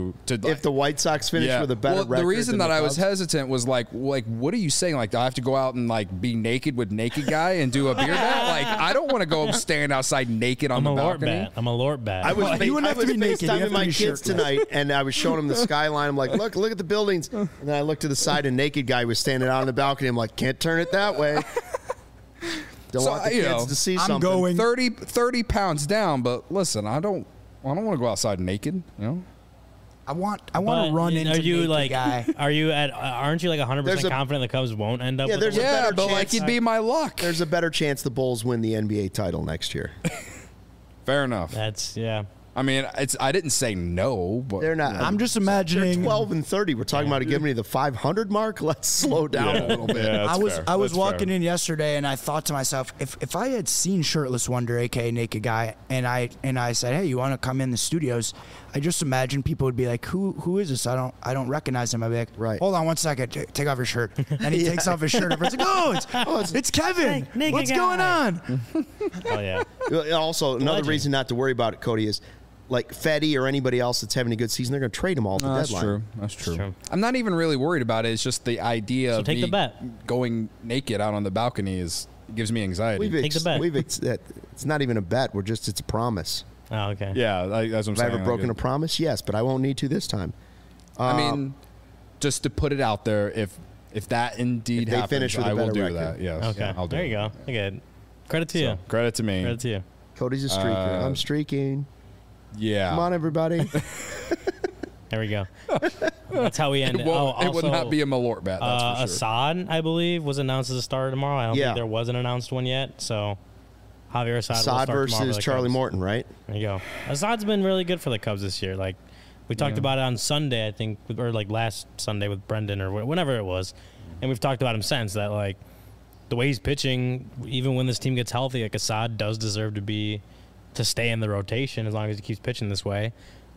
Speaker 1: If the White Sox finish with a better
Speaker 3: well,
Speaker 1: record
Speaker 3: the reason
Speaker 1: than
Speaker 3: that
Speaker 1: the
Speaker 3: I was
Speaker 1: Cubs-
Speaker 3: hesitant was like, what are you saying? Like, do I have to go out and like be naked with naked guy and do a beer bet? Like, I don't want to go stand outside naked on
Speaker 2: I'm
Speaker 3: the
Speaker 2: a Lort
Speaker 3: balcony.
Speaker 2: bat. I'm a Lort bat.
Speaker 1: I was,
Speaker 4: You wouldn't have to be naked. You have
Speaker 1: FaceTiming
Speaker 4: to
Speaker 1: my
Speaker 4: be
Speaker 1: kids
Speaker 4: shirtless.
Speaker 1: tonight, and I was showing them the skyline. I'm like, look at the buildings. And then I looked to the side, and naked guy was standing out on the balcony. I'm like, can't turn it that way. Don't
Speaker 3: So,
Speaker 1: want the
Speaker 3: you
Speaker 1: kids
Speaker 3: know,
Speaker 1: to see
Speaker 4: I'm
Speaker 1: something.
Speaker 4: going-
Speaker 3: 30 pounds down, but listen, I don't want to go outside naked. You know,
Speaker 4: I want to
Speaker 2: But
Speaker 4: run into
Speaker 2: Are you
Speaker 4: naked
Speaker 2: like?
Speaker 4: guy.
Speaker 2: Are you at? Aren't you like 100%
Speaker 1: There's a-
Speaker 2: confident the Cubs won't end up?
Speaker 1: Yeah,
Speaker 2: with
Speaker 1: there's
Speaker 2: the
Speaker 1: a
Speaker 2: win?
Speaker 1: better
Speaker 3: but like
Speaker 1: chance-
Speaker 3: it'd be my luck.
Speaker 1: There's a better chance the Bulls win the NBA title next year.
Speaker 3: Fair enough.
Speaker 2: That's yeah.
Speaker 3: I mean, I didn't say no, but
Speaker 1: They're not.
Speaker 4: I'm just
Speaker 1: They're
Speaker 4: imagining.
Speaker 1: 12 and 30. We're talking about giving me the 500 mark. Let's slow down a little bit.
Speaker 3: Yeah,
Speaker 4: I was
Speaker 3: fair.
Speaker 4: I was
Speaker 3: That's
Speaker 4: walking
Speaker 3: fair.
Speaker 4: in yesterday and I thought to myself, if I had seen Shirtless Wonder, aka Naked Guy, and I said, hey, you want to come in the studios? I just imagine people would be like, who is this? I don't recognize him. I'd be like,
Speaker 1: Right.
Speaker 4: hold on one second, take off your shirt. And he takes off his shirt. Everyone's like, it's Kevin.
Speaker 2: Naked
Speaker 4: What's
Speaker 2: Guy."
Speaker 4: going on?
Speaker 2: Oh yeah.
Speaker 1: Also, another
Speaker 2: Legend.
Speaker 1: reason not to worry about it, Cody, is like Fetty or anybody else that's having a good season, they're going to trade them all at the
Speaker 3: That's
Speaker 1: deadline.
Speaker 3: true. That's true.
Speaker 2: true.
Speaker 3: I'm not even really worried about it. It's just the idea of
Speaker 2: take
Speaker 3: me
Speaker 2: the bet.
Speaker 3: going naked out on the balcony gives me anxiety.
Speaker 2: Take the bet.
Speaker 1: It's not even a bet. It's a promise.
Speaker 2: Oh okay.
Speaker 3: yeah, that's what I'm
Speaker 1: Have I
Speaker 3: saying.
Speaker 1: ever broken a promise? Yes, but I won't need to this time.
Speaker 3: I mean, just to put it out there, if that indeed
Speaker 1: If they
Speaker 3: happens,
Speaker 1: finish with a
Speaker 3: I will
Speaker 1: better
Speaker 3: do
Speaker 1: record.
Speaker 3: that. Yes.
Speaker 2: Okay.
Speaker 3: I'll do
Speaker 2: There
Speaker 3: it.
Speaker 2: you go. Okay. Credit to you.
Speaker 3: Credit to me.
Speaker 2: Credit to you.
Speaker 1: Cody's a streaker. I'm streaking.
Speaker 3: Yeah.
Speaker 1: Come on, everybody.
Speaker 2: There we go. That's how we end it.
Speaker 3: It would not be
Speaker 2: a
Speaker 3: a Malort bet. That's for sure.
Speaker 2: Assad, I believe, was announced as a starter tomorrow. I don't
Speaker 1: Yeah.
Speaker 2: think there was an announced one yet. So Javier Assad will start
Speaker 1: Assad
Speaker 2: tomorrow for
Speaker 1: versus
Speaker 2: the
Speaker 1: Charlie
Speaker 2: Cubs.
Speaker 1: Morton, right?
Speaker 2: There you go. Assad's been really good for the Cubs this year. Like we talked about it on Sunday, I think, or like last Sunday with Brendan or whenever it was, and we've talked about him since. That like the way he's pitching, even when this team gets healthy, like Assad does deserve to stay in the rotation as long as he keeps pitching this way.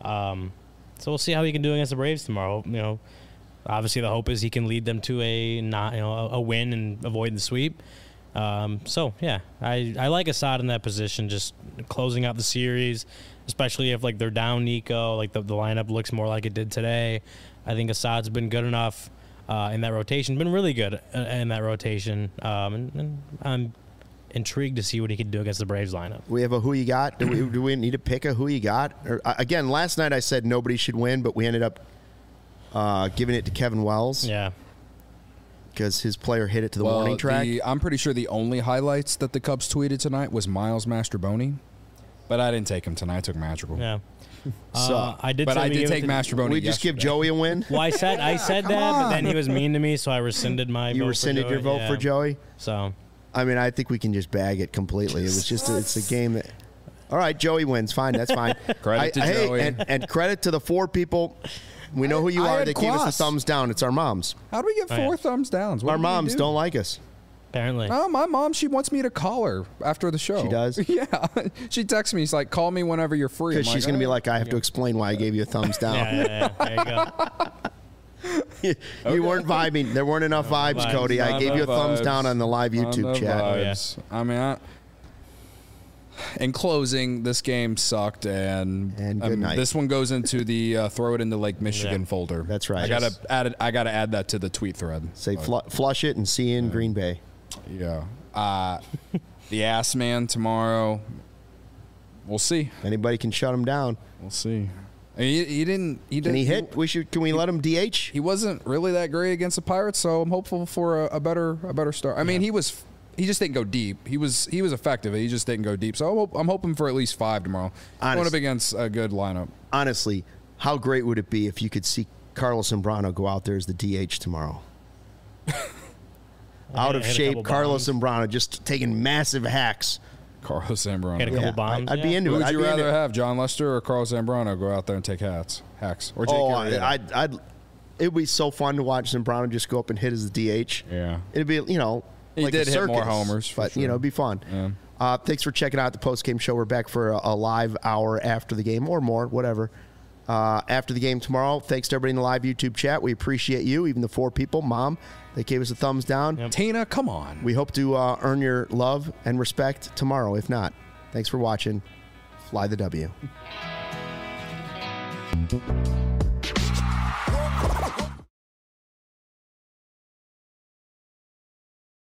Speaker 2: So we'll see how he can do against the Braves tomorrow. You know, obviously the hope is he can lead them to a win and avoid the sweep. So yeah, I like Assad in that position, just closing out the series, especially if like they're down Nico, like the lineup looks more like it did today. I think Assad's been good enough in that rotation, been really good in that rotation, and I'm intrigued to see what he can do against the Braves lineup.
Speaker 1: We have a who you got. Do we need to pick a who you got? Or, again, last night I said nobody should win, but we ended up giving it to Kevin Wells.
Speaker 2: Yeah.
Speaker 1: Because his player hit it to the warning track.
Speaker 3: I'm pretty sure the only highlights that the Cubs tweeted tonight was Miles Mastroboni, but I didn't take him tonight. I took Madrigal.
Speaker 2: Yeah.
Speaker 1: So,
Speaker 2: I did.
Speaker 3: But
Speaker 2: say
Speaker 3: I
Speaker 2: we
Speaker 3: did
Speaker 2: give it
Speaker 3: take
Speaker 2: to-
Speaker 3: Mastroboni.
Speaker 1: we just give
Speaker 3: yesterday.
Speaker 1: Joey a win.
Speaker 2: Well, I said that, but then he was mean to me, so I rescinded my.
Speaker 1: You
Speaker 2: vote
Speaker 1: rescinded
Speaker 2: for
Speaker 1: your
Speaker 2: Joey.
Speaker 1: vote for
Speaker 2: Yeah.
Speaker 1: Joey.
Speaker 2: So
Speaker 1: I mean, I think we can just bag it completely. It was just it's a game that. All right, Joey wins. Fine, that's fine.
Speaker 3: Credit to Joey.
Speaker 1: and credit to the 4 people. We know who you
Speaker 4: I
Speaker 1: are.
Speaker 4: had
Speaker 1: They gave us the
Speaker 4: Klaus.
Speaker 1: thumbs down. It's our moms.
Speaker 3: How do we get
Speaker 2: Oh,
Speaker 3: 4
Speaker 2: yeah.
Speaker 3: thumbs downs? What
Speaker 1: Our
Speaker 3: did we
Speaker 1: moms
Speaker 3: do?
Speaker 1: don't like us.
Speaker 2: apparently,
Speaker 3: Oh, my mom, she wants me to call her after the show.
Speaker 1: She does?
Speaker 3: Yeah. She texts me. She's like, call me whenever you're free.
Speaker 1: Because
Speaker 3: I'm
Speaker 1: she's going to be
Speaker 3: "Oh."
Speaker 1: like, I have to explain why I gave you a thumbs down.
Speaker 2: yeah. There you go.
Speaker 1: You weren't vibing. There weren't enough vibes,
Speaker 2: vibes.
Speaker 1: Cody. I
Speaker 3: Not
Speaker 1: gave you a
Speaker 3: enough
Speaker 1: thumbs
Speaker 3: vibes.
Speaker 1: down on the live
Speaker 3: On
Speaker 1: YouTube
Speaker 3: the
Speaker 1: chat.
Speaker 3: vibes. I mean, in closing, this game sucked, and
Speaker 1: good night.
Speaker 3: This one goes into the throw it into Lake Michigan
Speaker 2: Yeah.
Speaker 3: folder.
Speaker 1: That's right.
Speaker 3: I gotta add it. I gotta add that to the tweet thread.
Speaker 1: Say
Speaker 3: But,
Speaker 1: flush it and see you in Green Bay.
Speaker 3: yeah. The ass man tomorrow. We'll see.
Speaker 1: Anybody can shut him down.
Speaker 3: We'll see. I mean, he didn't. He
Speaker 1: Can
Speaker 3: didn't.
Speaker 1: he hit? Can we let him DH?
Speaker 3: He wasn't really that great against the Pirates, so I'm hopeful for a better start. I mean, he just didn't go deep. He was effective. He just didn't go deep. So I'm hoping for at least 5 tomorrow. Going up against a good lineup.
Speaker 1: Honestly, how great would it be if you could see Carlos Zambrano go out there as the DH tomorrow? Out of
Speaker 2: Hit a
Speaker 1: shape,
Speaker 2: couple
Speaker 1: Carlos
Speaker 2: bombs.
Speaker 1: Zambrano just taking massive hacks.
Speaker 3: Carlos Zambrano.
Speaker 2: Hit a couple bombs.
Speaker 1: I'd be into
Speaker 3: Who
Speaker 1: it.
Speaker 3: would
Speaker 1: I'd
Speaker 3: you
Speaker 1: be into
Speaker 3: rather
Speaker 1: it.
Speaker 3: have, John Lester or Carlos Zambrano go out there and take hacks? Or Jake
Speaker 1: Oh,
Speaker 3: Arrieta?
Speaker 1: it'd be so fun to watch Zambrano just go up and hit as the DH.
Speaker 3: Yeah.
Speaker 1: It'd be,
Speaker 3: He
Speaker 1: like
Speaker 3: did
Speaker 1: a
Speaker 3: hit more
Speaker 1: circus,
Speaker 3: homers, for
Speaker 1: but
Speaker 3: sure.
Speaker 1: it'd be fun.
Speaker 3: Yeah.
Speaker 1: Thanks for checking out the post-game show. We're back for a live hour after the game or more, whatever. After the game tomorrow. Thanks to everybody in the live YouTube chat. We appreciate you, even the 4 people. Mom, they gave us a thumbs down.
Speaker 2: Yep.
Speaker 3: Tina, come on.
Speaker 1: We hope to earn your love and respect tomorrow. If not, thanks for watching. Fly the W.